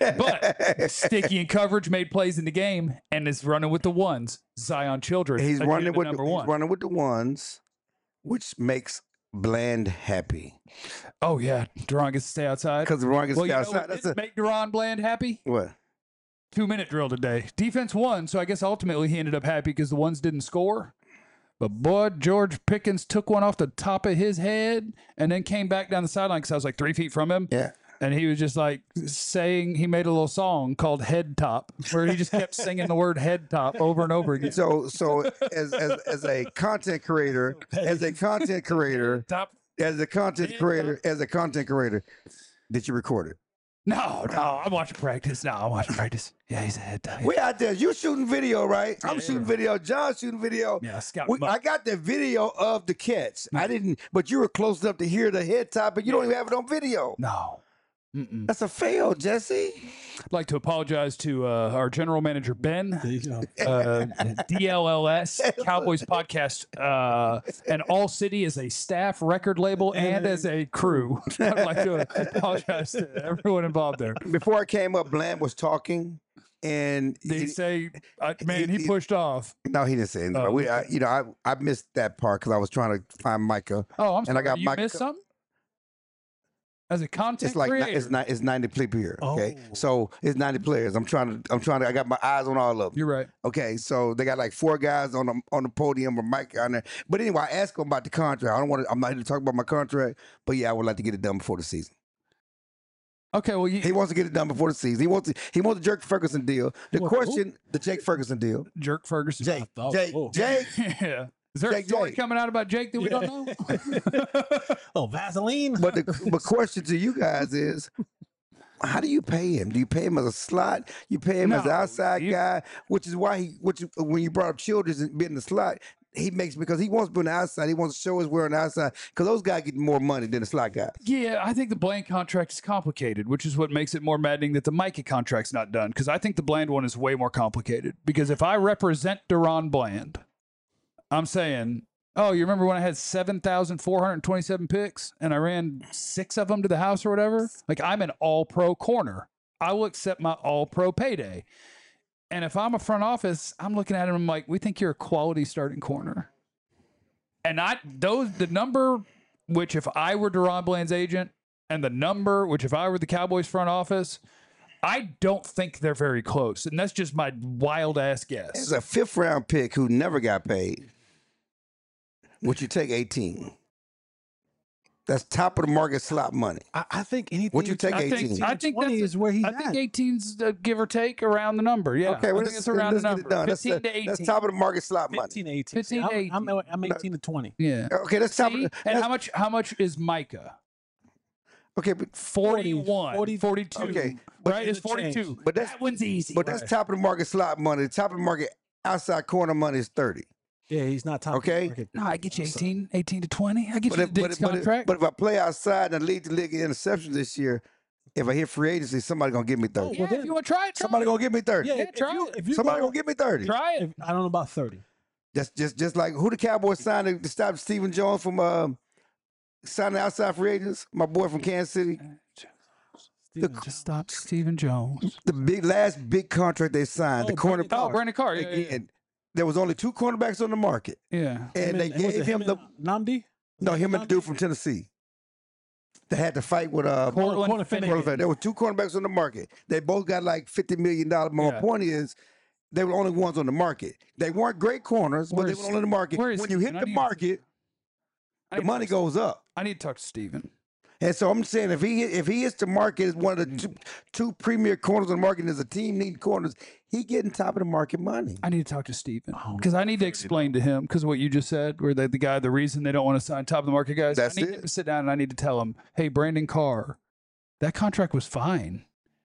but sticky in coverage, made plays in the game, and is running with the ones. Zion Childress, He's agenda running with number the, one. he's running with the ones, which makes Bland happy Oh yeah, Duran gets to stay outside. because Ron gets Well, you know outside. what That's didn't a, make Duran Bland happy? what? Two minute drill today. Defense won, so I guess ultimately he ended up happy because the ones didn't score. But boy, George Pickens took one off the top of his head and then came back down the sideline because I was like three feet from him. Yeah. And he was just like saying, he made a little song called Head Top, where he just kept singing the word head top over and over again. So, so as, as as a content creator, as a content creator, Top. as a content creator, as a content creator, did you record it? No, no, I'm watching practice. No, I'm watching practice. Yeah, he's a head top. We out there. You shooting video, right? I'm Yeah, shooting yeah. video. John's shooting video. Yeah, scout We, him up. I got the video of the catch. I didn't, but you were close enough to hear the head top, but you don't even have it on video. No. Mm-mm. That's a fail, Jesse. I'd like to apologize to uh, our general manager, Ben. There you go. uh, D L L S Cowboys podcast, uh, and All City is a staff record label and as a crew. I'd like to apologize to everyone involved there. Before I came up, Bland was talking, and Did he he- say, uh, man, he pushed off? no, he didn't say anything. Oh, we, I, you know, I, I missed that part because I was trying to find Micah. Oh, I'm And sorry. I got you Mike- missed something? As a content It's like ni- creator? it's not it's ninety people here. Okay, Oh. so it's ninety players. I'm trying to I'm trying to I got my eyes on all of them. You're right. Okay, so they got like four guys on the on the podium with Mike on there. But anyway, I asked him about the contract. I don't want to. I'm not here to talk about my contract, but yeah, I would like to get it done before the season. Okay, well, you, He wants to get it done before the season. He wants to, he wants the Jake Ferguson deal. The What, who? question, the Jake Ferguson deal. Jerk Ferguson. Jake, thought- Jake, oh. Jake. yeah. Is there Jake, a story Jake. coming out about Jake that we don't know? Oh, Vaseline. But the but question to you guys is, how do you pay him? Do you pay him as a slot? You pay him as an No, outside you- guy, which is why he, which when you brought up Childress and being the slot, he makes because he wants to be on the outside. He wants to show us we're on the outside because those guys get more money than the slot guys. Yeah, I think the Bland contract is complicated, which is what makes it more maddening that the Micah contract's not done. Because I think the Bland one is way more complicated. Because if I represent Deron Bland, I'm saying, oh, you remember when I had seven thousand four hundred twenty-seven picks and I ran six of them to the house or whatever? Like, I'm an all pro corner. I will accept my all pro payday. And if I'm a front office, I'm looking at him, I'm like, we think you're a quality starting corner. And I, those, the number, which if I were Deron Bland's agent, and the number, which if I were the Cowboys front office, I don't think they're very close. And that's just my wild ass guess. It's a fifth round pick who never got paid. Would you take eighteen? That's top of the market slot money. I, I think anything. Would you take I think- eighteen? I think twenty that's- is where he's I at. think eighteen's uh, give or take around the number. Yeah. Okay, I well, think let's, it's around let's the get number. it done. That's, fifteen to that's eighteen. top of the market slot money. fifteen, eighteen. fifteen to I'm, I'm, eighteen. I'm eighteen to twenty. Yeah. Okay, that's top. See? Of, And that's, how much how much is Micah? okay, but forty-one, forty, forty-two. Okay, but right? in It's the change. forty-two. But that's- that one's easy. but that's top of the market slot money. The top of the market outside corner money is thirty. Yeah, he's not top. Okay. Market. No, I get you eighteen, eighteen to twenty. I get But you if, the but, Diggs if, but, if, contract. but if I play outside and lead the league in interceptions this year, if I hit free agency, somebody gonna give me thirty. yeah, well, if you want to try it, try Somebody it. gonna give me thirty. Yeah, Yeah, if try you, it. if you Somebody go- gonna give me thirty. Try it. if- I don't know about thirty. Just just just like who the Cowboys signed to, to stop Stephen Jones from uh, signing outside free agents? My boy from Kansas City. Steven, Just stop Stephen Jones. The big last big contract they signed, the Oh, corner. Brandon Oh, Brandon Carr. Yeah, yeah, Again, there was only two cornerbacks on the market, yeah. and they was gave it him the Namdi. no him and the dude from Tennessee. They had to fight with uh. Cortland Corner Finnegan. Finnegan. There were two cornerbacks on the market. They both got like fifty million dollars. My Yeah. point is, they were the only ones on the market. They weren't great corners, but Where they is- were only on the market. where is When you hit Stephen? I the need- market, I the need to money talk- goes up. I need to talk to Steven. And so I'm saying if he if he hits the market as one of the two, two premier corners on the market, and as a team needing corners, he getting top of the market money. I need to talk to Steven Oh, because I need to explain to him because what you just said, where they, the guy, the reason they don't want to sign top of the market guys. That's I need it. him to sit down and I need to tell him, hey, Brandon Carr, that contract was fine.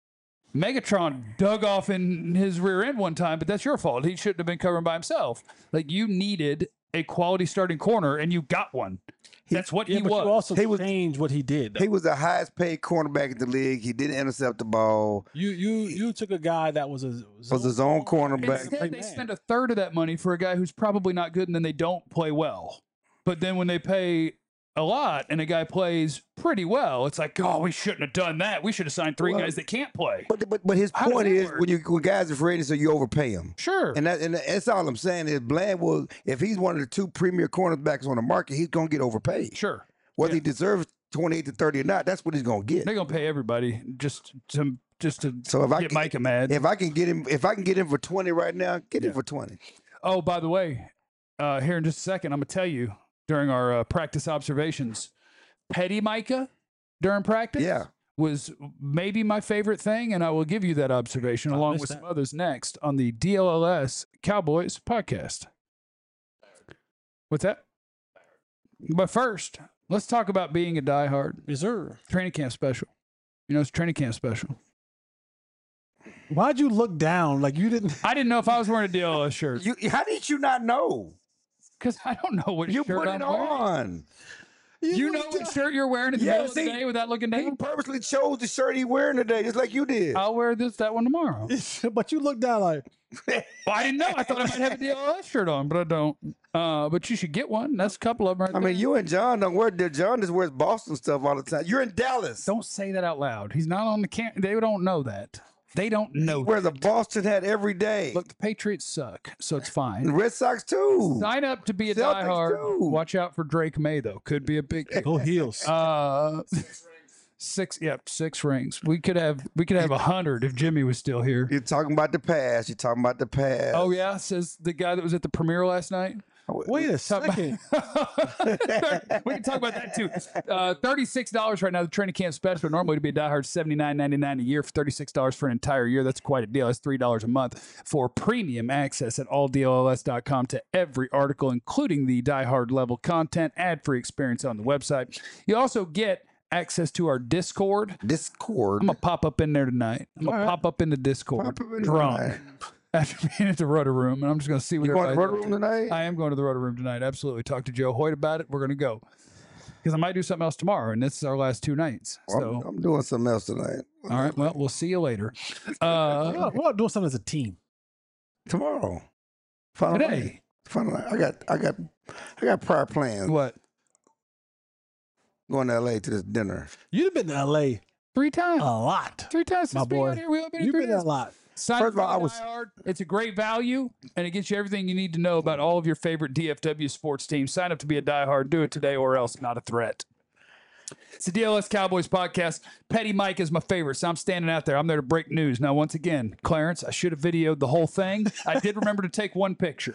Megatron dug off in his rear end one time, but that's your fault. He shouldn't have been covering by himself. Like you needed a quality starting corner and you got one. That's what Yeah, he but was. you also He was- changed what he did. He was the highest paid cornerback in the league. He didn't intercept the ball. You you you took a guy that was a Was his own cornerback. Instead, they man. spend a third of that money for a guy who's probably not good, and then they don't play well. But then when they pay a lot and a guy plays pretty well, it's like, oh, we shouldn't have done that. We should have signed three Well, guys that can't play. But but but his How does point that is work? when you when guys are free agency, you overpay them. Sure. And that and that's all I'm saying is Bland will if he's one of the two premier cornerbacks on the market, he's gonna get overpaid. sure. Whether Yeah. he deserves twenty-eight to thirty or not, that's what he's gonna get. They're gonna pay everybody just to just to So if I get can, Micah mad. if I can get him if I can get him for twenty right now, get him Yeah. for twenty. Oh, by the way, uh, here in just a second, I'm going to tell you during our uh, practice observations, Petty Micah during practice Yeah. was maybe my favorite thing, and I will give you that observation I along missed with that. some others next on the D L L S Cowboys podcast. What's that? But first, let's talk about being a diehard. Yes, sir. Training camp special. You know, it's training camp special. Why'd you look down like you didn't? I didn't know if I was wearing a D L L S shirt You, how did you not know? because I don't know what You shirt put I'm it wearing. on. You know what shirt you're wearing in the Yeah, middle see, of the day without looking He down? purposely chose the shirt he wearing today, just like you did. I'll wear this that one tomorrow. But you looked down like, Well, I didn't know. I thought I might have a D L L S shirt on, but I don't. Uh, but you should get one. That's a couple of them. Right I there. mean, you and John don't wear. John just wears Boston stuff all the time. You're in Dallas. Don't say that out loud. He's not on the cam. They don't know that. They don't know. He wears a Boston hat every day. Look, the Patriots suck, so it's fine. the Red Sox too. Sign up to be a Celtics diehard. too. Watch out for Drake May though. Could be a big. go heels. Uh, six. Yep, six rings. We could have. We could have a hundred if Jimmy was still here. You're talking about the past. You're talking about the past. Oh yeah, says the guy that was at the premiere last night. Wait a second. We can talk about that too. Uh, thirty-six dollars right now, the training camp special. Normally to be a diehard, seventy-nine ninety-nine a year. For thirty-six dollars for an entire year, that's quite a deal. That's three dollars a month for premium access at all D L L S dot com to every article, including the diehard level content, ad-free experience on the website. You also get access to our Discord. Discord. I'm going to pop up in there tonight. I'm going to pop up in the Discord Pop up in drunk tonight. after being at the Rotor Room, and I'm just going to see what You going to the everybody's road room tonight? I am going to the Rotor Room tonight. Absolutely. Talk to Joe Hoyt about it. We're going to go because I might do something else tomorrow, and this is our last two nights. Well, So, I'm, I'm doing something else tonight. all right. Well, we'll see you later. Uh, We're not doing something as a team. Tomorrow. Final today, night. Final night. I got. I got. I got prior plans. what? Going to L A to this dinner. You'd have been to L A Three times. a lot. Three times my since being boy. out here. We all been in You've three been there a days. lot. Sign First of all, up I for was- diehard. It's a great value, and it gets you everything you need to know about all of your favorite D F W sports teams. Sign up to be a diehard. Do it today, or else not a threat. It's the D L S Cowboys podcast. Petty Mike is my favorite, so I'm standing out there. I'm there to break news. Now, once again, Clarence, I should have videoed the whole thing. I did remember to take one picture.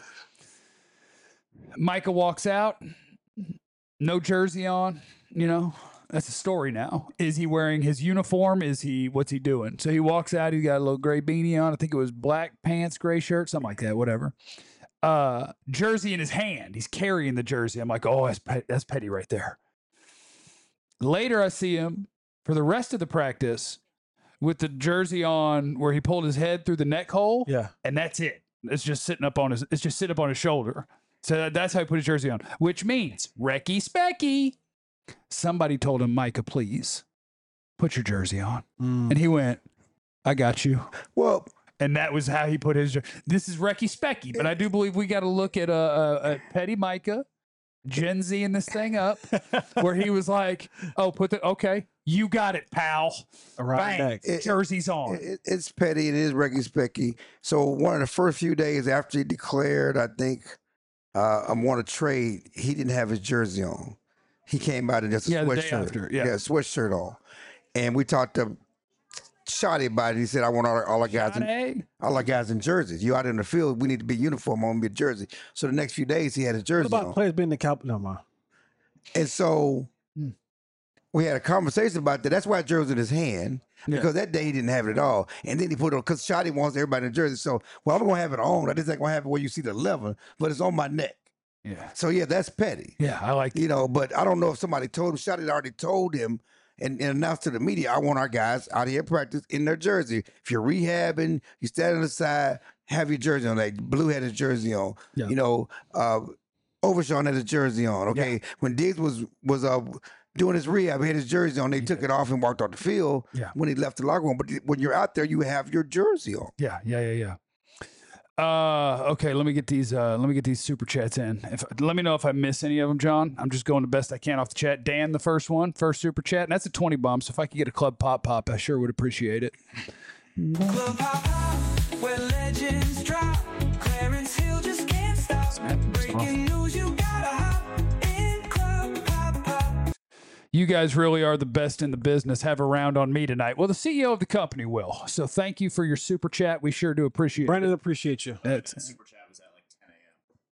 Micah walks out, no jersey on, you know. That's a story now. Is he wearing his uniform? Is he, what's he doing? So he walks out, he's got a little gray beanie on. I think it was black pants, gray shirt, something like that, whatever. Uh, jersey in his hand. He's carrying the jersey. I'm like, oh, that's, Pet- that's Petty right there. Later, I see him for the rest of the practice with the jersey on where he pulled his head through the neck hole. Yeah. And that's it. It's just sitting up on his, it's just sitting up on his shoulder. So that- that's how he put his jersey on, which means Recky Specky. Somebody told him, Micah, please put your jersey on. Mm. And he went, I got you. Well, And that was how he put his. jer- This is Recky Specky, but I do believe we got to look at uh, uh, at Petty Micah, Gen Z in this thing up, where he was like, "Oh, put the okay, you got it, pal. Around Bang, the neck. It- jersey's on." it, it's petty and it is Reggie Specky. So one of the first few days after he declared, I think uh, I want to trade. He didn't have his jersey on. He came out in just a Yeah, the day sweatshirt. after, yeah. sweatshirt on. And we talked to Shotty about it. He said, "I want all, our- all our guys in, Johnny? all our guys in jerseys. You out in the field, we need to be uniform on, be a jersey." So the next few days, he had his What jersey about on. players being the cow? No, man. And so we had a conversation about that. That's why jersey in his hand. Yeah. Because that day he didn't have it at all. And then he put it on, because Shotty wants everybody in jersey. So, well, I'm going to have it on. I just ain't going to have it where you see the eleven, but it's on my neck. Yeah, So, yeah, that's petty. yeah, I like. You know, but I don't know if somebody told him. Shotty already told him and, and announced to the media, I want our guys out here at practice in their jersey. If you're rehabbing, you stand on the side, have your jersey on. Like Blue had his jersey on. Yeah. You know, uh, Overshawn had his jersey on. Okay. When Diggs was was uh doing his rehab, he had his jersey on. They took it off and walked off the field Yeah. when he left the locker room. But when you're out there, you have your jersey on. Yeah, yeah, yeah, yeah. Uh, okay, let me get these. Uh, let me get these super chats in. If let me know if I miss any of them, John. I'm just going the best I can off the chat. Dan, the first one, first super chat, and that's a twenty bomb. So if I could get a club pop pop, I sure would appreciate it. Club Pop Pop, where legends drop. Clarence Hill just can't stop. Breaking news, you gotta hop in Club Pop Pop. You guys really are the best in the business. Have a round on me tonight. Well, the C E O of the company will. So thank you for your super chat. We sure do appreciate Brandon, it. appreciate you. That's, Super chat was at like ten a.m.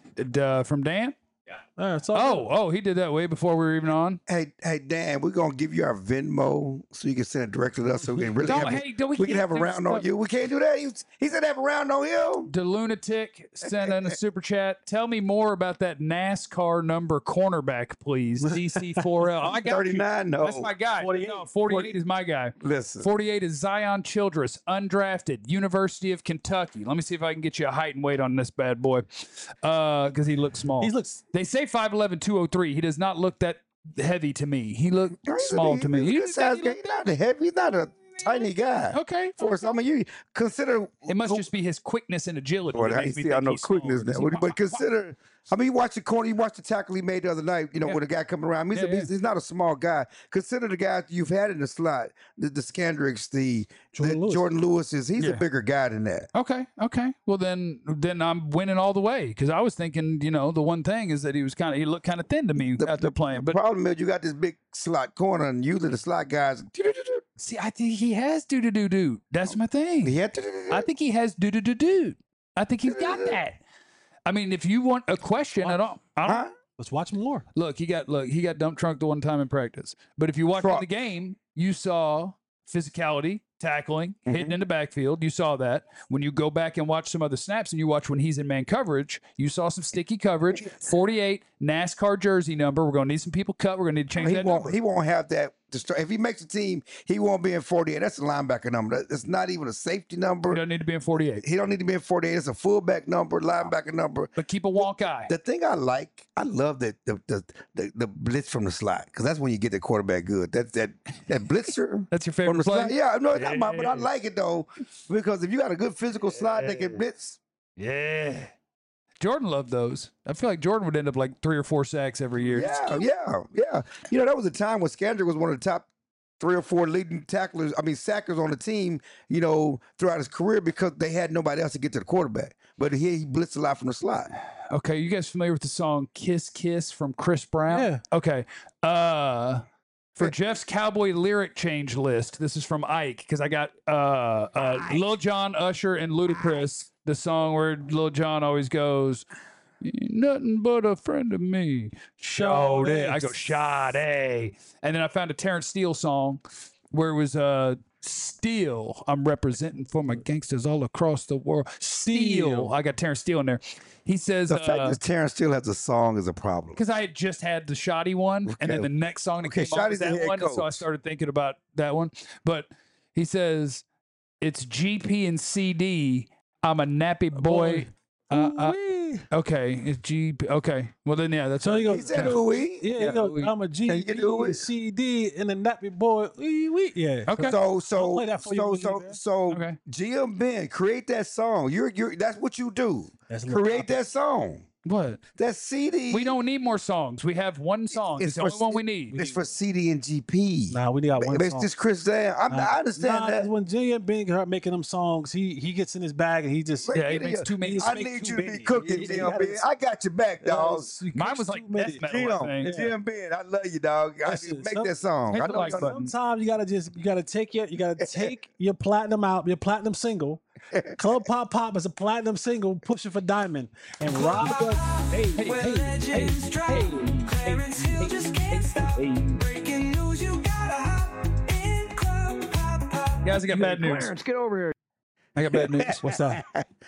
uh, from Dan. All right, so Oh, oh, he did that way before we were even on. Hey, hey, Dan, we're gonna give you our Venmo so you can send it directly to us, so we can really Don't- have, a- hey, don't- we we can can't have a do round on stuff. you. We can't do that. He, he said have a round on him. The lunatic sent in a super chat. Tell me more about that NASCAR number cornerback, please. D C four L. I got you. thirty-nine. No, That's my guy. forty-eight. No, forty-eight is my guy. listen. forty-eight is Zion Childress, undrafted, University of Kentucky. Let me see if I can get you a height and weight on this bad boy, because he looks small. he looks. They say five eleven, two oh three. He does not look that heavy to me. He looked He's a- small he's to me. a He- good size guy. He's not a heavy. He's not a tiny guy. okay. For us, I mean, you consider. It must just be his quickness and agility. Well, that I makes me see. I think know he's small. quickness now, He's- but consider. I mean, you watch the corner. You watch the tackle he made the other night. You know, Yeah. with a guy coming around. He's, Yeah, a, he's, he's not a small guy. Consider the guys you've had in the slot. The, the Scandricks, the Jordan the Lewis. Jordan Lewis is. He's Yeah. a bigger guy than that. Okay, okay. Well, then, then I'm winning all the way because I was thinking, you know, the one thing is that he was kind of he looked kind of thin to me The, out there playing. the But problem is you got this big slot corner, and usually the slot guys. see, I think he has do do do do. That's my thing. He had I think he has do do do do. I think he's got that. I mean, if you want a question at all, I don't, Huh? Let's watch more. look, he got look, he got dump trunk the one time in practice. But if you watch in Trunk. the game, you saw physicality, tackling, Mm-hmm. hitting in the backfield. You saw that. When you go back and watch some other snaps and you watch when he's in man coverage, you saw some sticky coverage. forty-eight NASCAR jersey number. We're gonna need some people cut. We're gonna need to change He that won't. number. He won't have that. to start. If he makes a team, he won't be in forty-eight. That's a linebacker number. That- It's not even a safety He number. doesn't need to be in forty-eight. He don't need to be in forty-eight. It's a fullback number, linebacker number. But keep a wonk eye. The thing I like, I love that the the, the, the blitz from the slot because that's when you get the quarterback good. That that that blitzer. That's your From favorite the play? slot. Yeah, no, it's not mine, but I like it though because if you got a good physical slot that can blitz, Yeah. Jordan loved those. I feel like Jordan would end up like three or four sacks every year. yeah, yeah, yeah. You know, that was a time when Scandrick was one of the top three or four leading tacklers, I mean, sackers on the team, you know, throughout his career because they had nobody else to get to the quarterback. But he, he blitzed a lot from the slot. Okay, you guys familiar with the song Kiss Kiss from Chris Brown? Yeah. Okay. Uh for Jeff's Cowboy lyric change list, this is from Ike because I got uh, uh Lil Jon, Usher, and Ludacris. The song where Lil Jon always goes, "Nothing but a friend of me." Sade. I go Sade. And then I found a Terrence Steele song where it was uh Steele. I'm representing for my gangsters all across the world. Steele. Steele. I got Terrence Steele in there. He says The fact uh, that Terrence still has a song is a problem. because I had just had the shoddy one, and then Okay. the next song that Okay, came on was Shoddy's the that head one, so I coach. started thinking about that one. But he says it's G P and C D. I'm a nappy boy. Uh, uh, Ooh-wee. okay, it's G P. Okay, well then yeah, that's So you go. He said, ooh, wee. Yeah, Yeah, you go, we- I'm a G Can you P, do it? C D, and a nappy boy. Wee, wee. Yeah. okay. So I'll so play that for you so when you so get there. so Okay. G M Ben, create that song. You're you're that's what you do. That's a little Create topic. that song. What? That C D. We don't need more songs. We have one song. It's, the only one we need. It's for C D and G P. Nah, we got one But it's song. just Chris Dan. I'm, Nah, I understand nah, 'cause that. when Jay and Ben start making them songs, he he gets in his bag and he just But Yeah, he get makes it. too many- he just I make need too you to be many. cooking, He- he Jim gotta- Ben. I got your back, dog. He Mine cooks was like too many. death metal. I Jim, think. Jim Ben, I love you, dog. I, Listen, make some- that song. hit I the know like you- button. Sometimes you gotta just you gotta take your you gotta take your platinum out, your platinum single. Club Pop Pop is a platinum single, pushing for diamond. And Rob does hey, hey, Where hey, legends hey, drop. hey, Clarence Hill just can't stop. Breaking news, you gotta hop in Club Pop Pop. Guys, I got bad news. Clarence, get over here. I got bad news. What's that?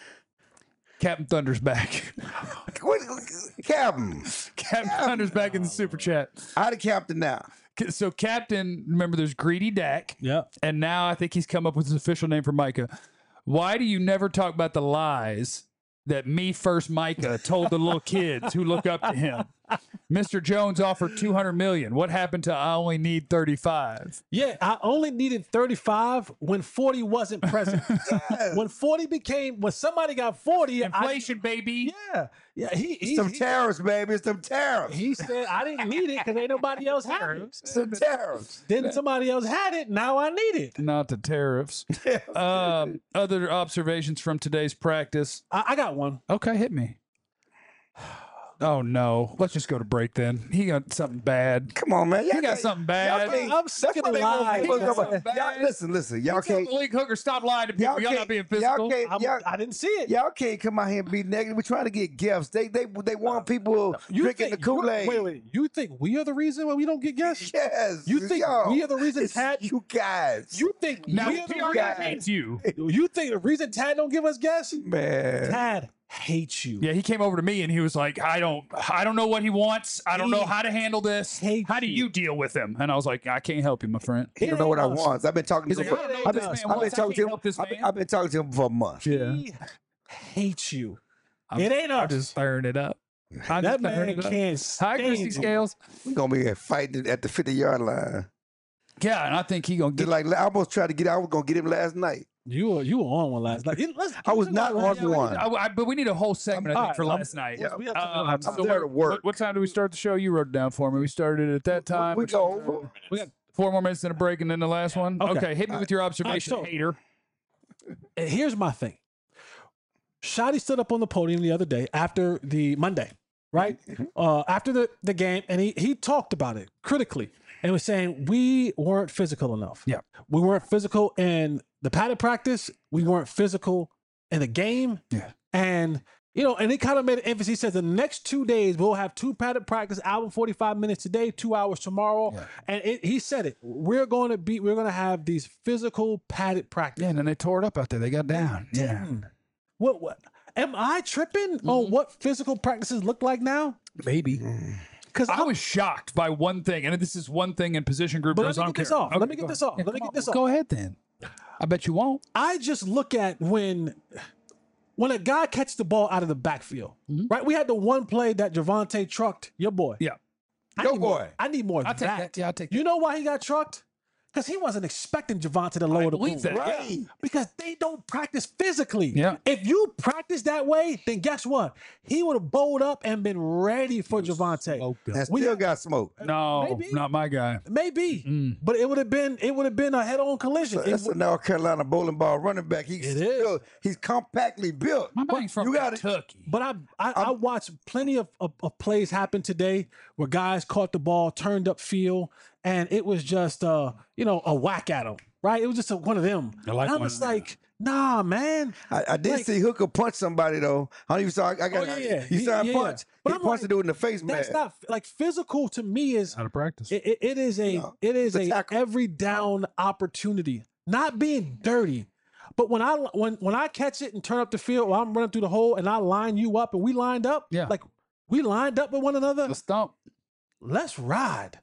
Captain Thunder's back. What- Captain. Captain Thunder's back in the super chat. How the captain now? So Captain, remember there's Greedy Dak. Yep. And now I think he's come up with his official name for Micah. Why do you never talk about the lies that me first Micah told the little kids who look up to him? Mister Jones offered two hundred million. What happened to I only need thirty-five? Yeah, I only needed thirty-five when forty wasn't present. When forty became when somebody got forty, Inflation, baby. I, yeah, yeah. He he, Some he, tariffs, baby. Some tariffs. he said I didn't need it because ain't nobody else had it. Some tariffs. Then somebody else had it. Now I need it. Not the tariffs. um, other observations from today's practice. I, I got one. Okay, hit me. Oh no. Let's just go to break then. He got something bad. Come on, man. Y'all He got can't- something y'all bad. can't- I'm sick that's of what the they want lies, people to man. come up. Y'all, listen, listen. Y'all Tell can't. Malik Hooker, stop lying to people. Y'all Y'all can't. not being Y'all physical. can't. I'm, Y'all, I didn't see it. y'all can't come out here and be negative. We're trying to get gifts. They they they want people You drinking think, the Kool Aid. Wait, wait. You think we are the reason why we don't get guests? Yes. You think yo, we are the reason it's Tad? you guys. You think Now, we are the P R guys. hates you. You think the reason Tad don't give us guests? man. Tad hates you. Yeah, he came over to me and he was like, I don't I don't know what he wants. I don't know He how to handle this. hates How do you. you deal with him? And I was like, I can't help you, my friend. He don't It know what I ain't us. want. I've been talking He's to like, him. I don't know For, what I've this been, man I've been wants. I talking can't to him. help this I've been, man. I've been talking to him for a month. Yeah. He hates you. I'm- it ain't I'm us. just stirring it up. I'm that just stirring man it up. can't Hi, stand Christy you. Scales. We're gonna be fighting at the fifty yard line. Yeah, and I think he gonna Just get like I almost tried to get. I was gonna get him last night. You were you were on one last night. Let's- I was let's not talk on about Yeah, we one. need- I- I- but we need a whole segment, I I'm- think, for all right, last I'm- night. Yeah. we have to- Uh, I'm so there to what- work. What, what time do we start the show? You wrote it down for me. We started at that time. We go over. We got Four more minutes and a break, and then the last one. Okay. Okay, hit me with your observation, so- hater. And here's my thing. Shotty stood up on the podium the other day after the Monday, right? Uh, after the, the game, and he he talked about it critically and was saying we weren't physical enough. Yeah. We weren't physical in the padded practice. We weren't physical in the game. Yeah. And you know, and he kind of made an emphasis. He said the next two days we'll have two padded practice, hour and forty-five minutes today, two hours tomorrow. Yeah. And it, he said it. We're going to be, we're going to have these physical padded practice. Yeah, and then they tore it up out there. They got down. Yeah. Dang. What what am I tripping on what physical practices look like now? Maybe. Because I was shocked by one thing, and this is one thing in position group. But drills, let I me don't get this care. off. Okay, Let me get go this ahead. off. Yeah, Let me come get on. this off. Go ahead then. I bet you won't. I just look at when when a guy catches the ball out of the backfield, right? We had the one play that Javante trucked your boy. Yeah. I Your need more- boy. I need more of I'll take that. that. Yeah, I'll take that. You know why he got trucked? Because he wasn't expecting Javante to lower the boom. believe that. Right. Because they don't practice physically. Yeah. If you practice that way, then guess what? He would have bowled up and been ready for Javante. And We- still got smoke. No, Maybe. not my guy. Maybe, Mm. but it would have been it would have been a head-on collision. It That's a would- North Carolina bowling ball running back. He's It is. still, he's compactly built. My man's from you gotta- Kentucky. but I I, I watched plenty of, of, of plays happen today where guys caught the ball, turned up field, and it was just uh you know a whack at them. Right? It was just a, one of them. I like and I'm one just of them. like, nah, man. I, I did Like- see Hooker punch somebody though. I don't even saw. I got. Oh, yeah, yeah. He He- saw him yeah. punch. But he I'm punched like, the dude in the face, man. That's not like physical to me is Out of practice. it, it, it is a No, it is it's a a tackle. every down opportunity. Not being dirty. But when I when when I catch it and turn up the field, or I'm running through the hole and I line you up and we lined up, Yeah. like we lined up with one another. The stump. Let's ride.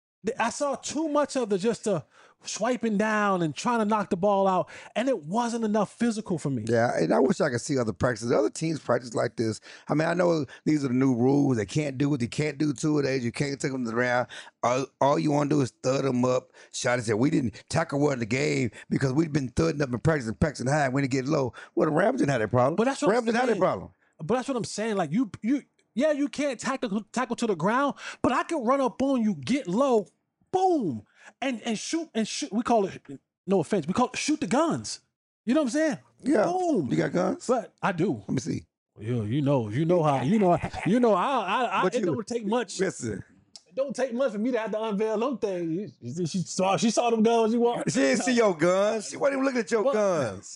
I saw too much of the just the swiping down and trying to knock the ball out, and it wasn't enough physical for me. Yeah, and I wish I could see other practices. Other teams practice like this. I mean, I know these are the new rules. They can't do what they can't do two of days. You can't take them to the round. All, all you want to do is thud them up. Shotty said, we didn't tackle well in the game because we've been thudding up in practice and practicing high. When it get low, well, the Rams didn't have that problem. But that's what Rams I'm didn't have that saying. problem. But that's what I'm saying. Like you, you, yeah, you can't tackle tackle to the ground, but I can run up on you, get low, boom, and and shoot and shoot. We call it, no offense, we call it shoot the guns. You know what I'm saying? Yeah. Boom. You got guns? But I do. Let me see. You, you know, you know how, you know, you know, I, I, I But it you- don't take much. Listen, It don't take much for me to have to unveil them things. You- you- She saw, she saw them guns. You want? she didn't see your guns. She wasn't even looking at your What? guns.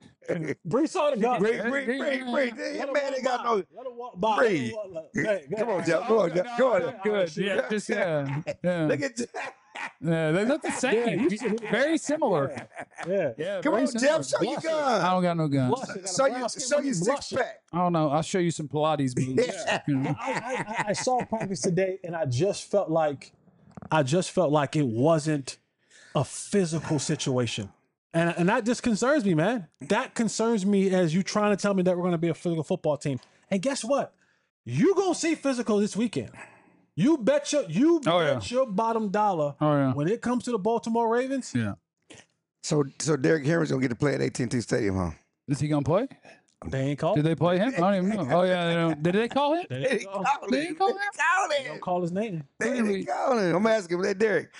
Bree saw the guns. Break, break, break, break. Let That her man walk ain't got by. no. Let her walk by. Bree. Let her walk- Hey, Come hey, on, hey. Jeff. Come on, Jeff. Come on. Good. Yeah, just yeah. Yeah. Look at Jeff. Yeah, they look the same. you see- Very similar. Yeah. Yeah. Come very on, similar. Jeff. Show your I guns. don't got no guns. Blushing, got a Show brown you, skin, show but you you six blushing. pack. I don't know. I'll show you some Pilates moves. Yeah. You know. I, I, I saw practice today, and I just felt like, I just felt like it wasn't a physical situation, and and that just concerns me, man. That concerns me as you trying to tell me that we're going to be a physical football team. And guess what? You gonna see physical this weekend. You bet your you Oh, yeah. bet your bottom dollar Oh yeah. when it comes to the Baltimore Ravens. Yeah. So, so Derrick Henry's gonna get to play at A T and T Stadium, huh? Is he gonna play? They ain't called. Did they play him? I don't even know. Oh yeah. They don't, did they call him? They They didn't didn't call, call They him. didn't call They him? didn't call they him. don't call his name. They Who did we- didn't call him. I'm asking him. That Derek.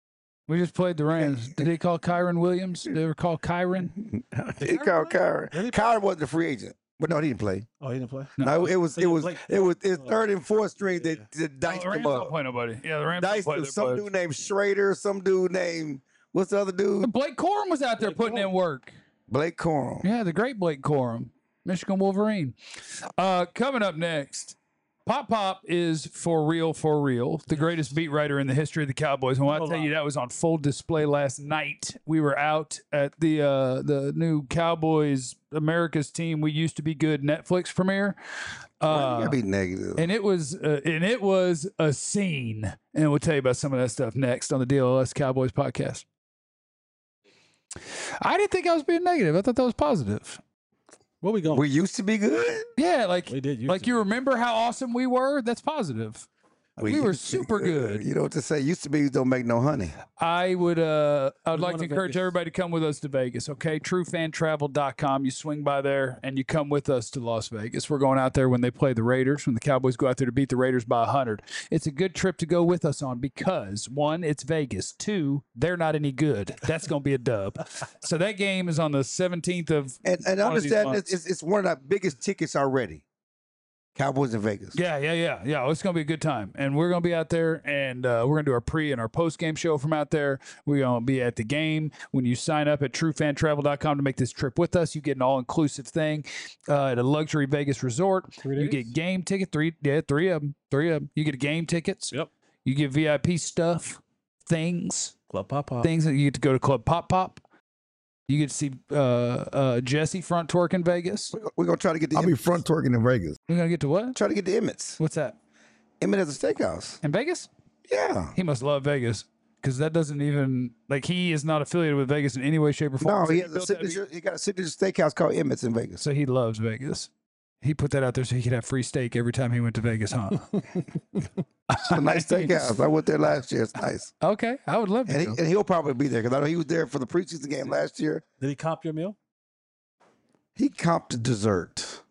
We just played the Rams. Did they call Kyron Williams? Did they ever call Kyron? He called Kyron. Kyron wasn't a free agent. But no, he didn't play. Oh, he didn't play. No, it was So it you was Blake- it was it's Oh, third and fourth string that, that Oh, diced the Rams him don't up. play nobody. Yeah, the Rams don't Diced play him. their Some buds. dude named Schrader, some dude named what's the other dude? Blake Corum was out there Blake putting in Corum. work. Blake Corum. Yeah, the great Blake Corum, Michigan Wolverine. Uh, coming up next, Pop Pop is for real, for real, the greatest beat writer in the history of the Cowboys. And when I No tell lie. you that was on full display last night, we were out at the uh, the new Cowboys America's Team We Used to Be Good Netflix premiere. Why you Uh, gotta be negative. and it was uh, and it was a scene, and we'll tell you about some of that stuff next on the D L S Cowboys podcast. I didn't think I was being negative. I thought that was positive. Where we going? We used to be good. Yeah, like We did. used like to you be. remember how awesome we were? That's positive. We were used to be super good. You know what to say? Used to be don't make no honey. I would uh I would We like wanna to encourage Vegas. everybody to come with us to Vegas, okay? true fan travel dot com. You swing by there and you come with us to Las Vegas. We're going out there when they play the Raiders, when the Cowboys go out there to beat the Raiders by one hundred. It's a good trip to go with us on because one, it's Vegas. Two, they're not any good. That's going to be a dub. So that game is on the seventeenth of And and one of these understand months. it's, it's it's one of the biggest tickets already. Cowboys in Vegas. Yeah, yeah, yeah, yeah. It's gonna be a good time, and we're gonna be out there, and uh, we're gonna do our pre and our post game show from out there. We're gonna be at the game. When you sign up at true fan travel dot com to make this trip with us, you get an all inclusive thing uh, at a luxury Vegas resort. Three You days? get game ticket three, yeah, three of them, three of them. You get game tickets. Yep. You get V I P stuff, things, Club Pop Pop. things that you get to go to Club Pop Pop. You get to see uh, uh, Jesse front twerk in Vegas. We're gonna- We're gonna try to get the I'll be front twerking in Vegas. We're gonna get to what? try to get the Emmett's. What's that? Emmett has a steakhouse. In Vegas? Yeah. He must love Vegas because that doesn't even like he is not affiliated with Vegas in any way, shape, or form. No, So he has a built that signature. He got a signature steakhouse called Emmett's in Vegas. so he loves Vegas. He put that out there so he could have free steak every time he went to Vegas, huh? It's a nice steakhouse. I went there last year. It's nice. Okay, I would love to. And, he, go. and he'll probably be there because I know he was there for the preseason game last year. Did he comp your meal? He comped the dessert.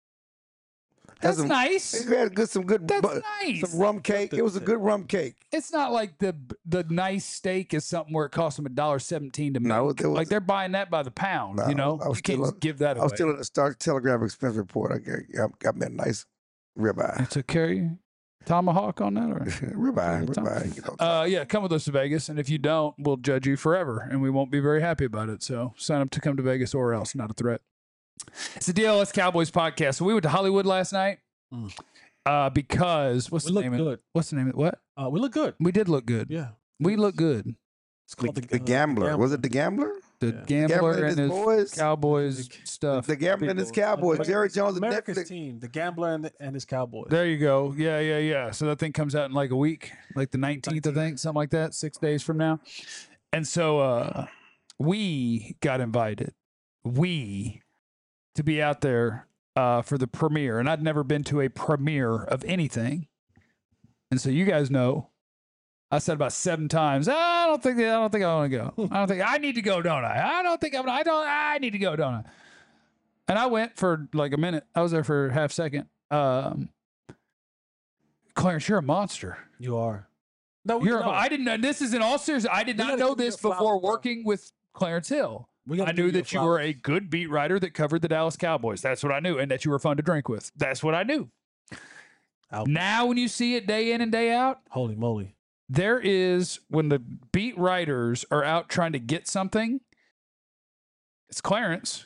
That's some, nice. He had good, some good, That's bu- nice. some rum cake. It was a good rum cake. It's not like the the nice steak is something where it costs them a dollar seventeen to make. No, there was- like they're buying that by the pound. No, you know, I was you can't still just on- give that I away. was still in the Star Telegram expense report. I got, got, got me a nice ribeye. It's a carry tomahawk on that, or ribeye, Tom- ribeye. You know, Uh, yeah, come with us to Vegas, and if you don't, we'll judge you forever, and we won't be very happy about it. So sign up to come to Vegas or else, not a threat. It's the D L S Cowboys podcast. So we went to Hollywood last night Mm. uh, because what's We the look name? Of, good. what's the name of it? What? Uh, we look good. We did look good. Yeah. We look good. It's the, called the, gambler. Was it the gambler? The Yeah. gambler Gambler and and his his boys? Cowboys stuff. The gambler and his people. Cowboys. Jerry Jones and America's Netflix. team, the gambler and, the, and his Cowboys. There you go. Yeah, yeah, yeah. So that thing comes out in like a week, like the nineteenth, I think, something like that, six days from now. And so uh, we got invited, we, to be out there uh, for the premiere. And I'd never been to a premiere of anything. And so you guys know, I said about seven times, I don't think I don't think I want to go. I don't think I need to go, don't I? I don't think I'm. I don't. I need to go, don't I? And I went for like a minute. I was there for a half second. Um, Clarence, you're a monster. You are. No, we You're. know. A, I didn't know. This is in all seriousness. I did We not gotta know give you this your flowers, before bro. working with Clarence Hill. We gotta I give knew you your that you were flowers. a good beat writer that covered the Dallas Cowboys. That's what I knew, and that you were fun to drink with. That's what I knew. Out. Now, when you see it day in and day out, Holy moly. there is when the beat writers are out trying to get something, it's Clarence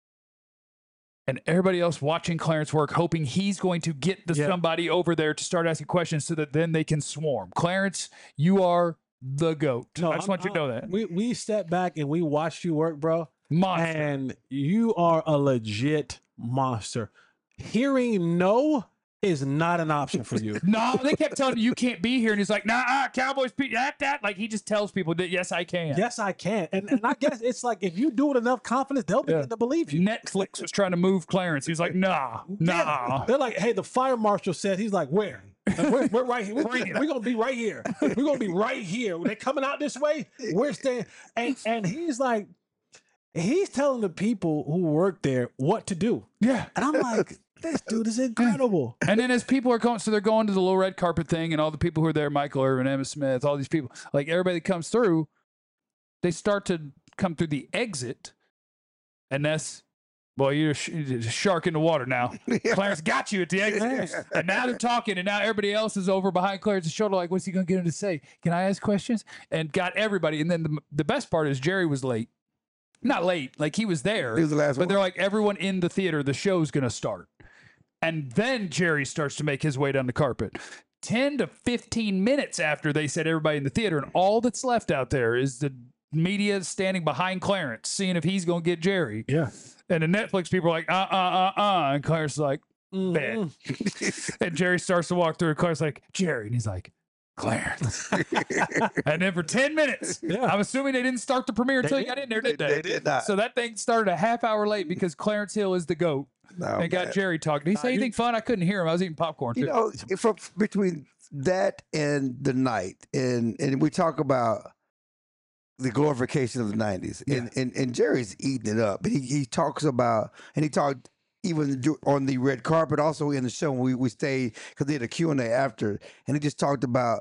and everybody else watching Clarence work, hoping he's going to get the Yeah. somebody over there to start asking questions so that then they can swarm. Clarence, you are the GOAT. I just I'm- want you to know I'm- that. We we stepped back and we watched you work, bro. Monster. And you are a legit monster. Hearing no is not an option for you. No, they kept telling you you can't be here. And he's like, nah, uh, Cowboys, beat that, that. Like, he just tells people that, yes, I can. Yes, I can. And, and I guess it's like if you do it enough confidence, they'll begin Yeah. to believe you. Netflix was trying to move Clarence. He was like, nah, nah. Yeah. They're like, hey, the fire marshal said, he's like, where? Like, we're, we're right here. We're, Bring it. we're gonna be right here. We're gonna be right here. They're coming out this way. We're staying. And and he's like, he's telling the people who work there what to do. Yeah. And I'm like, this dude is incredible. And then as people are going, so they're going to the little red carpet thing, and all the people who are there, Michael Irvin, Emmitt Smith, all these people, like everybody that comes through, they start to come through the exit, and that's Boy, you're a, sh- you're a shark in the water now. Clarence got you at the end. And now they're talking, and now everybody else is over behind Clarence's shoulder, like, what's he going to get him to say? Can I ask questions? And got everybody. And then the, the best part is Jerry was late. Not late, like he was there. He was the last but one. they're like, everyone in the theater, the show's going to start. And then Jerry starts to make his way down the carpet. ten to fifteen minutes after they said everybody in the theater, and all that's left out there is the media standing behind Clarence, seeing if he's going to get Jerry. Yeah. And the Netflix people are like, uh, uh, uh, uh. And Clarence is like, bet. Mm-hmm. And Jerry starts to walk through, and Clarence's like, Jerry. And he's like, Clarence. And then for ten minutes, Yeah. I'm assuming they didn't start the premiere until he got in there, did they? They did not. So that thing started a half hour late because Clarence Hill is the GOAT. No, and got man. Jerry talking. Did he say you- anything fun? I couldn't hear him. I was eating popcorn. You Too. know, from between that and the night, and and we talk about the glorification of the nineties, and, and and Jerry's eating it up. He he talks about, and he talked even do- on the red carpet, also in the show when we we stayed because they had a Q and A after, and he just talked about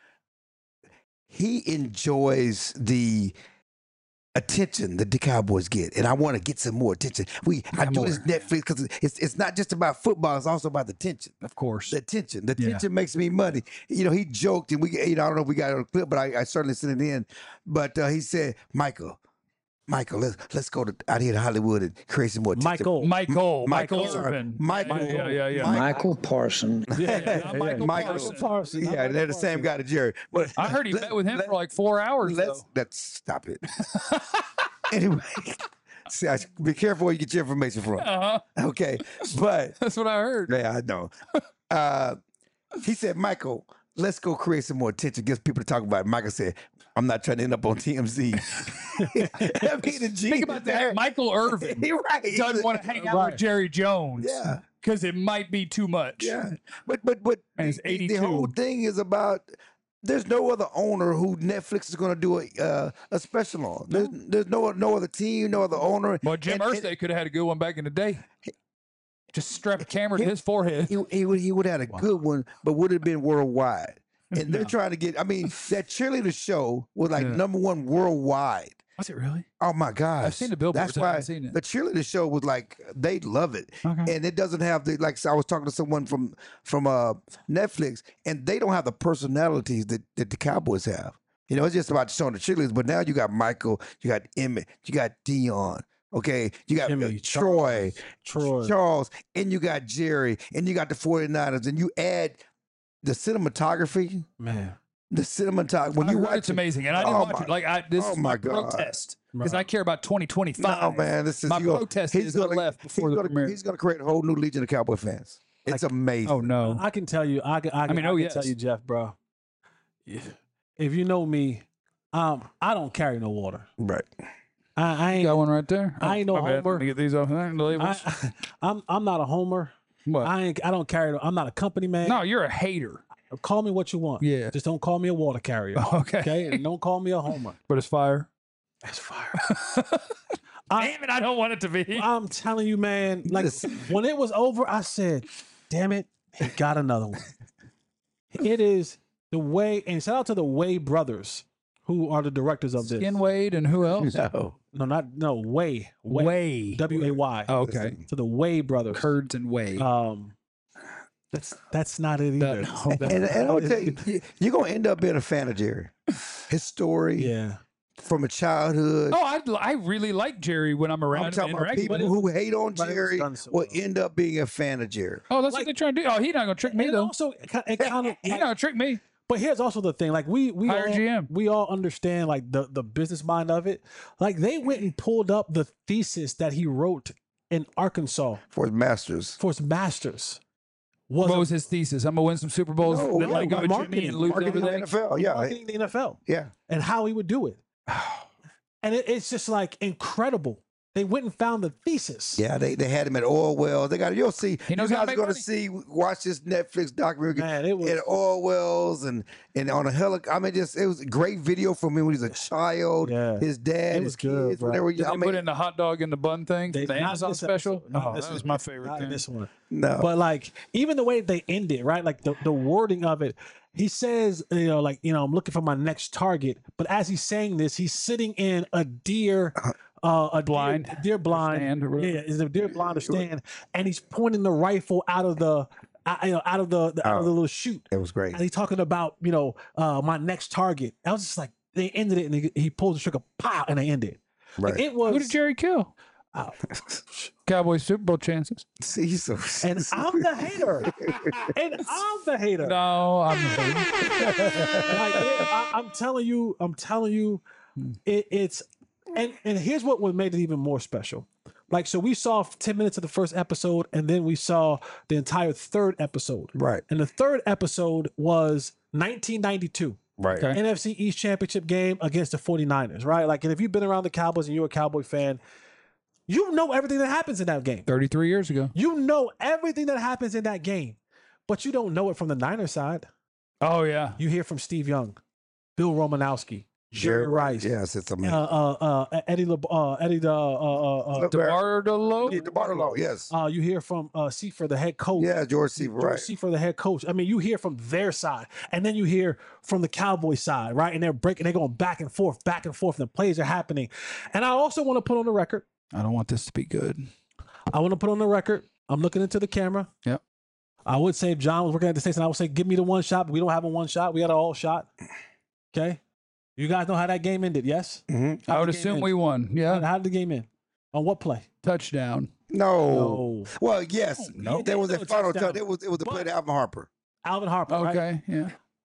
he enjoys the attention that the Cowboys get, and I want to get some more attention. We I Yeah, do more. this Netflix because it's it's not just about football; it's also about the attention. Of course. The attention, the Yeah. attention makes me money. You know, he joked, and we, you know, I don't know if we got it on a clip, but I, I certainly sent it in. But uh, he said, "Michael, Michael, let's let's go to out here to Hollywood and create some more attention." Michael. Michael. Michael, Michael sorry. Irvin. Michael. Yeah, yeah, yeah. Mike- Michael Parson. Yeah, yeah, Yeah, yeah. Michael Michael Parson. Parson. Yeah, they're the same guy to Jerry. But I heard he let- met with him let- for like four hours. Let's Though. let's stop it. Anyway, see, I, be careful where you get your information from. Uh-huh. Okay, but That's what I heard. yeah, I know. Uh, he said, "Michael, let's go create some more attention, get people to talk about it." Michael said, "I'm not trying to end up on T M Z." I mean, the G Think about that. Michael Irvin You're right. doesn't want to hang out Right. with Jerry Jones. Yeah. Because it might be too much. Yeah, but but but And it's the- the, eighty-two. whole thing is about. There's no other owner who Netflix is going to do a uh, a special on. There's there's no no other team, no other owner. Well, Jim And- and Irsay could have had a good one back in the day. Just strap a camera to his forehead. He, he would he would have had a good one, but would have been worldwide. And they're trying to get. I mean, that cheerleader show was like Yeah. number one worldwide. Was it really? Oh my gosh! seen the billboards, That's I why haven't seen it. the cheerleader show was like they love it, Okay. and it doesn't have the like. So I was talking to someone from from uh, Netflix, and they don't have the personalities that, that the Cowboys have. You know, it's just about showing the cheerleaders. But now you got Michael, you got Emmett, you got Dion. Okay, you got uh, Jimmy, Troy, Troy. Charles, and you got Jerry, and you got the 49ers, and you add the cinematography. Man. The cinematography. When I you heard watch it's amazing, and I didn't Oh watch my- it. Like I, this oh is my my God. protest because I care about twenty twenty-five. No, man, this is My you gonna- protest he's is I gonna- left before he's the gonna, premiere. He's going to create a whole new legion of Cowboy fans. It's amazing. Oh no! I can tell you, I can, I, can, mean, I oh, can yes. tell you, Jeff, bro. If you know me, um, I don't carry no water. Right. I, I You ain't. got one right there. I ain't no my bad. homer. Let me get these off there. The labels. I, I'm I'm not a homer. what? I ain't. I don't carry. no- I'm not a company man. no, you're a hater. Call me what you want. Yeah. Just don't call me a water carrier. Okay. Okay. And don't call me a homer. But it's fire. That's fire. I, Damn it! I don't want it to be. I'm telling you, man. Like Listen. when it was over, I said, "Damn it, he got another one." It is the way, and shout out to the Way brothers, who are the directors of this. Skin Wade and who else? No. No, not no Way. Way. Way. W A Y. Oh, okay. To the Way brothers. Kurds and Way. Um, that's that's not it That- either. no, that- And, and I'll tell you, you- you're going to end up being a fan of Jerry. His story Yeah. from a childhood. oh, I I really like Jerry when I'm around I'm him talking about interacting people with him. who hate on but it was Jerry done so will well. end up being a fan of Jerry. Oh, that's Like- what they're trying to do. Oh, he's not gonna trick me And though. also, it kind, it kind of. He's not gonna trick me. But here's also the thing: like we we Hire all, G M. we all understand like the the business mind of it. Like they went and pulled up the thesis that he wrote in Arkansas For his masters. for his masters. Was What a- was his thesis? I'm gonna win some Super Bowls. No, then, like no, go with marketing. Jimmy and lose Marketing in the everything. N F L. Yeah. marketing the N F L Yeah. and how he would do it. And it, it's just like incredible. They went and found the thesis. Yeah, they, they had him at oil wells. They got you'll see. He knows you how to guys make are going to money. see watch this Netflix documentary Man, it was at oil wells and and on a helicopter. I mean, just it was a great video from him when he was a child. Yeah. His dad, It his was good, kids, bro. when they were Did young. they I put mean, in the hot dog in the bun thing? They- the not Amazon this special? episode. Not Oh, this that was one. my favorite Not in thing. this one. no. But like even the way they end it, right? Like the, the wording of it, he says, you know, like, you know, I'm looking for my next target. But as he's saying this, he's sitting in a deer uh, a Blind. deer, deer blind. stand or whatever. Yeah, is a deer blind or stand, and he's pointing the rifle out of the, uh, you know, out of the, the out of the little chute, It was great. and he's talking about, you know, uh, my next target. I was just like, they ended it, and he, he pulls the trigger, pow, and they ended. Like, Right. it was. Who did Jerry kill? Oh. Cowboys Super Bowl chances. See, he's so. And I'm the hater. and I'm the hater. No, I'm. Like, it, I, I'm telling you, I'm telling you, it, it's and and here's what would made it even more special. Like, so we saw ten minutes of the first episode, and then we saw the entire third episode. Right. And the third episode was nineteen ninety-two. Right. Okay. N F C East Championship game against the 49ers, right? Like, and if you've been around the Cowboys and you're a Cowboy fan, you know everything that happens in that game. thirty-three years ago. You know everything that happens in that game, but you don't know it from the Niners side. Oh yeah. You hear from Steve Young, Bill Romanowski, Jerry Rice, Yes, it's uh, amazing. uh, uh, Eddie, Le- uh, Eddie, the, uh, uh, uh, DeBartolo. Yeah, DeBartolo, yes. uh, you hear from uh, Seafer, the head coach. Yeah, George Seaver, George right. Seafer, the head coach. I mean, you hear from their side, and then you hear from the Cowboy side, right? And they're breaking, they're going back and forth, back and forth, and the plays are happening. And I also want to put on the record. I don't want this to be good. I want to put on the record. I'm looking into the camera. Yep. I would say if John was working at the station, I would say, give me the one shot, but we don't have a one shot. We got an all shot. Okay. You guys know how that game ended, yes? Mm-hmm. I would the game assume end? we won. Yeah. How did the game end? On what play? Touchdown. No. No. Well, yes. No. There was a No final touchdown. touch. It was it was the play But- to Alvin Harper. Alvin Harper, right? Okay. Yeah.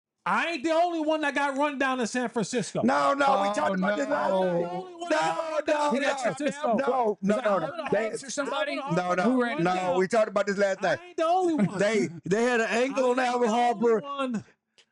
I ain't the only one that got run down in San Francisco. No, no, we Oh, talked about this last no. night. The only one that No, got run no, down in no, San Francisco. no, no, no, Alvin no. Harper They- or somebody? Alvin No, Harper no, Who got ran run no. down. We talked about this last night. I ain't the only one. They they had an angle on I ain't Alvin the only Harper. one.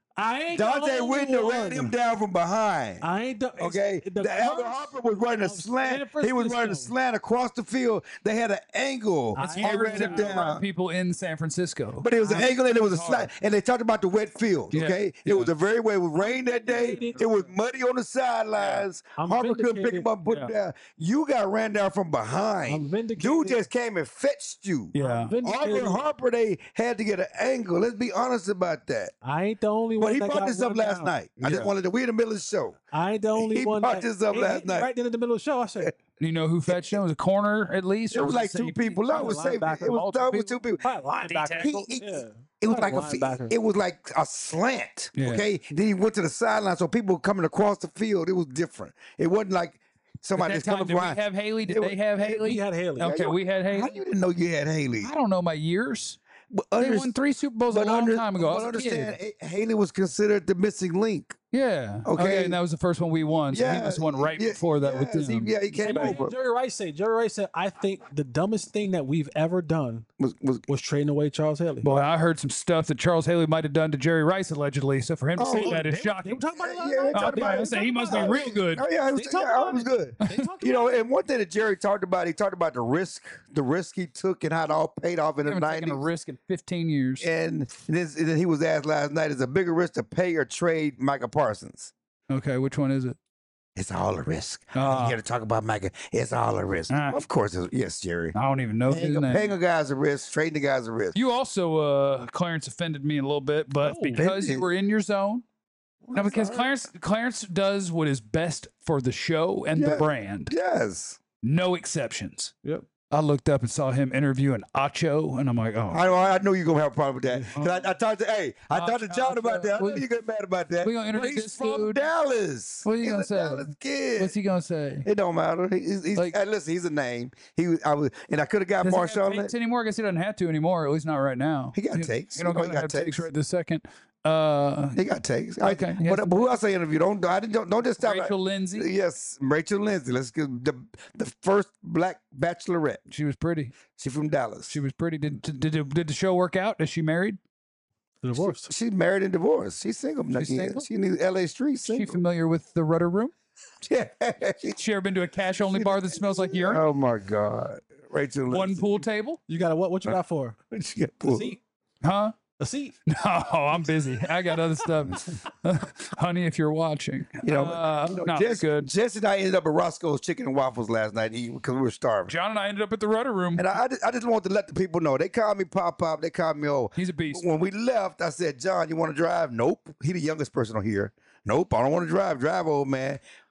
I ain't Dante the only Whitner one. ran him down from behind. I ain't the, it's- Okay, the the Alvin curse Harper was running a of slant. San He was running a Francisco. slant across the field. They had an angle. It's and Harder ran to him run down. people in San Francisco. But it was an angle and it was a hard. slant. And they talked about the wet field. Yeah, Okay, yeah. it was a very way. It was rain that day. vindicated. It was muddy on the sidelines. I'm Harper couldn't pick him vindicated. up and put him down. You got ran down from I'm behind. vindicated. Dude just came and fetched you. Yeah. I'm vindicated. Auburn Harper, they had to get an angle. Let's be honest about that. I ain't the only one But he that brought got this up run last down. night. I just Yeah. wanted to. We in the middle of the show. I ain't the only He one. brought that, this up he- last he- night. Right then in the middle of the show, I said, You know who fetched him? It was a corner at least. It or was like two safety? people. No, it was Probably safety. linebacker. It was, Multiple no, it was two people. probably linebacker. He- he- yeah. It was Probably like a linebacker. it was like a slant. Yeah. Okay. Then he went to the sideline, so people were coming across the field. It was different. It wasn't like somebody At just that time, coming did we behind. have Haley? Did It they was- have Haley? We had Haley. Okay, we had How Haley. you didn't know you had Haley? I don't know my years. But They under- won three Super Bowls a but long under- time ago. I But was a kid. understand, Ha- Haley was considered the missing link. Yeah. Okay. And that was the first one we won. So he was the one right yeah, before that with yes, he- them. Yeah, he came Hey, over. Jerry Rice said, Jerry Rice said, I think the dumbest thing that we've ever done Was, was, was trading away Charles Haley. Boy, I heard some stuff that Charles Haley might have done to Jerry Rice allegedly. So for him to Oh, say that is They shocking. were talking about it last Yeah, night. they Oh, talked yeah, about I it. say he must be Oh, real good. Oh yeah, it was, They talked yeah, about it was it. good. They talked You know, about it. and one thing that Jerry talked about, he talked about the risk, the risk he took, and how it all paid off in They the haven't taken nineties. a risk in fifteen years. And this, and then he was asked last night, is it a bigger risk to pay or trade Micah Parsons? Okay, which one is it? It's all a risk. Ah. You got to talk about Micah. It's all a risk. Ah. Of course, it's, yes, Jerry. I don't even know his Paying, a- name. paying a guy's a risk. Trading the guy's a risk. You also, uh, Clarence offended me a little bit, but Oh, because did you he? were in your zone. No, because Clarence Clarence does what is best for the show and the Yeah. brand. Yes. No exceptions. Yep. I looked up and saw him interviewing Acho, and I'm like, oh, I, I knew you were going to have a problem with that. 'Cause I, I talked to, hey, I Uh, talked to John uh, about that. I know we- you get mad about that. we gonna But introduce he's this from dude? Dallas. What are you He's gonna a say? Dallas kid. what's he gonna say? It don't matter. He- He's, he's Like- hey, listen, he's a name. He was, I was, and I could have got Does he Marshall have on takes it. anymore? I guess he doesn't have to anymore. At least not right now. He got You- takes. You don't You know he gotta got have takes takes. right this second. Uh, He got takes. Okay, I, yes. but, but who else I interviewed? Don't I didn't don't, don't just stop. Rachel Lindsay. Yes, Rachel Lindsay. Let's get the the first black bachelorette. She was pretty. She from Dallas. She was pretty. Did did did, did the show work out? Is she married? Divorced. She's married and divorced. She's single. She's She's single? She in the L A streets. Is she Single. familiar with the Rudder Room? Yeah. She ever been to a cash only bar that smells like urine? Oh my God, Rachel. One Lindsay. pool table? You got a what? What you got for She got her? A pulled. seat. Huh? A seat. No, I'm busy. I got other stuff. Honey, if you're watching, You know, uh, you know, not Jess, good. Jess and I ended up at Roscoe's Chicken and Waffles last night because we were starving. John and I ended up at the Rudder Room. And I, I, just, I just want to let the people know. They called me Pop Pop. They called me old. He's a beast. But when we left, I said, John, you want to drive? Nope. He the youngest person on here. Nope. I don't want to drive. Drive, old man.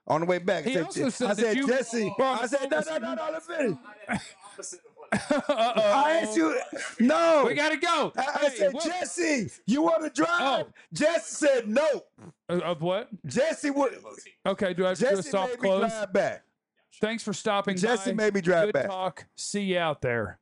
On the way back, He I also said, said I that said you- Jesse. Bro, I said, no, no, no, no, let me finish. Uh-oh. I asked you, no. We gotta go. I, I Hey, said, what- Jesse, you want to drive? Oh. Jesse said no. Uh, Of what? Jesse would. Okay, do I have to do a Jesse soft made me close? drive back. Thanks for stopping Jesse by. made me drive Good back. talk. See you out there.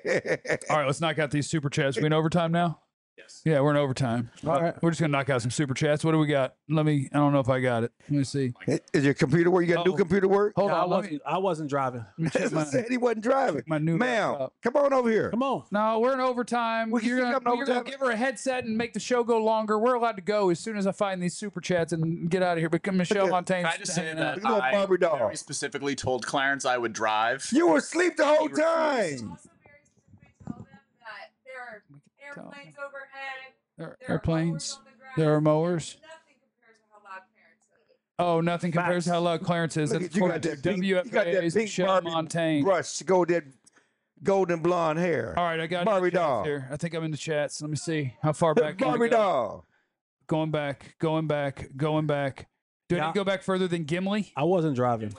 All right, let's knock out these super chats. We in overtime now? Yes. Yeah, we're in overtime. All right. We're just going to knock out some super chats. What do we got? Let me, I don't know if I got it. Let me see. Is your computer work? You got Oh. new computer work? Hold Yeah, I on. Let wasn't, me, I wasn't driving. let me check That's my, what said he wasn't driving. my new Ma'am, laptop. come on over here. Come on. No, we're in overtime. We can You're still gonna, come to you're gonna overtime. give her a headset and make the show go longer. We're allowed to go as soon as I find these super chats and get out of here. But Michelle Okay. Montaigne. Can I just say that Look at that I Barbie doll. very specifically told Clarence I would drive. You were asleep the whole He refused. time. Also very specifically tell them that there are airplanes overhead, There there are are airplanes. mowers on the ground. There are mowers. Nothing compares to how loud parents are. Oh, nothing compares to how loud Clarence is. Look That's at you got according to that pink, you got that W F A's pink Michelle Barbie Montaigne. brush, golden, golden blonde hair. All right, I got Barbie the chats doll. here. I think I'm in the chats. Let me see how far back. can we Barbie go? doll. Going back, going back, going back. Do I Yeah. need to go back further than Gimli? I wasn't driving.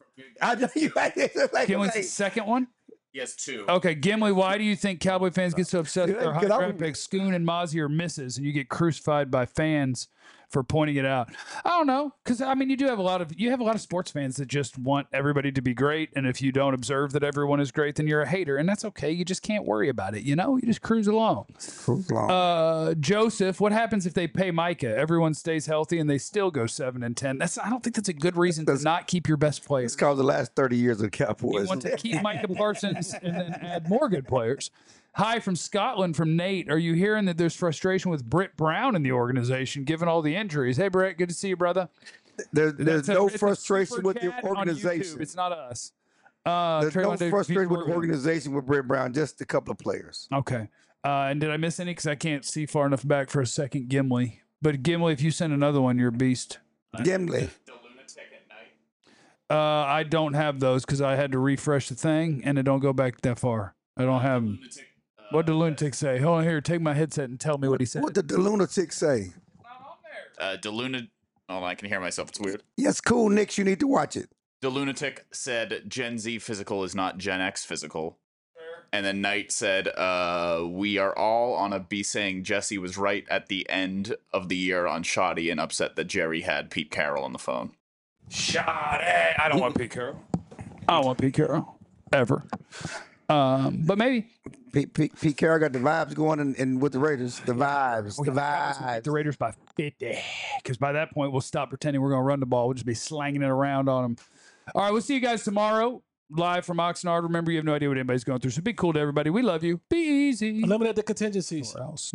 I know you like this. Like, Gimli's the like, second one. He has two. Okay, Gimli, why do you think Cowboy fans get so obsessed with their high Because I'm- draft picks? Scoon and Mozzie are misses, and you get crucified by fans for pointing it out. I don't know, because I mean, you do have a lot of you have a lot of sports fans that just want everybody to be great, and if you don't observe that everyone is great, then you're a hater, and that's okay. You just can't worry about it. You know, you just cruise along. Cruise along. Uh, Joseph, what happens if they pay Micah? Everyone stays healthy and they still go seven and ten. That's I don't think that's a good reason to That's- not keep your best players. it's called the last thirty years of the You Cowboys. want to keep Micah Parsons and then add more good players. Hi from Scotland from Nate. Are you hearing that there's frustration with Britt Brown in the organization given all the injuries? Hey, Britt, good to see you, brother. There, there's That's a- no it's a frustration super with the chat on YouTube. organization. It's not us. Uh, There's no Trayvon Diggs frustration beat with the Oregon. organization with Brett Brown, just a couple of players. Okay. Uh, and did I miss any? Because I can't see far enough back for a second. Gimli. But Gimli, if you send another one, you're a beast. Gimli. The lunatic at night. Uh, I don't have those because I had to refresh the thing and it don't go back that far. I don't have them. Lunatic. Uh, What did the lunatic say? Hold on here. Take my headset and tell me what he said. What did the lunatic say? uh, the lunatic. Oh, I can hear myself. It's weird. Yes, cool, Nick. You need to watch it. The lunatic said Gen Z physical is not Gen X physical. And then Knight said, uh, we are all on a B saying Jesse was right at the end of the year on Shoddy and upset that Jerry had Pete Carroll on the phone. Shot it. I don't want Pete Carroll. I don't want Pete Carroll ever. Um, but maybe Pete, Pete, Pete Carroll got the vibes going in, in with the Raiders. The vibes. The vibes. the Raiders by fifty. Because by that point, we'll stop pretending we're going to run the ball. We'll just be slanging it around on them. All right, we'll see you guys tomorrow live from Oxnard. Remember, you have no idea what anybody's going through. So be cool to everybody. We love you. Be easy. Eliminate the contingencies. Or else.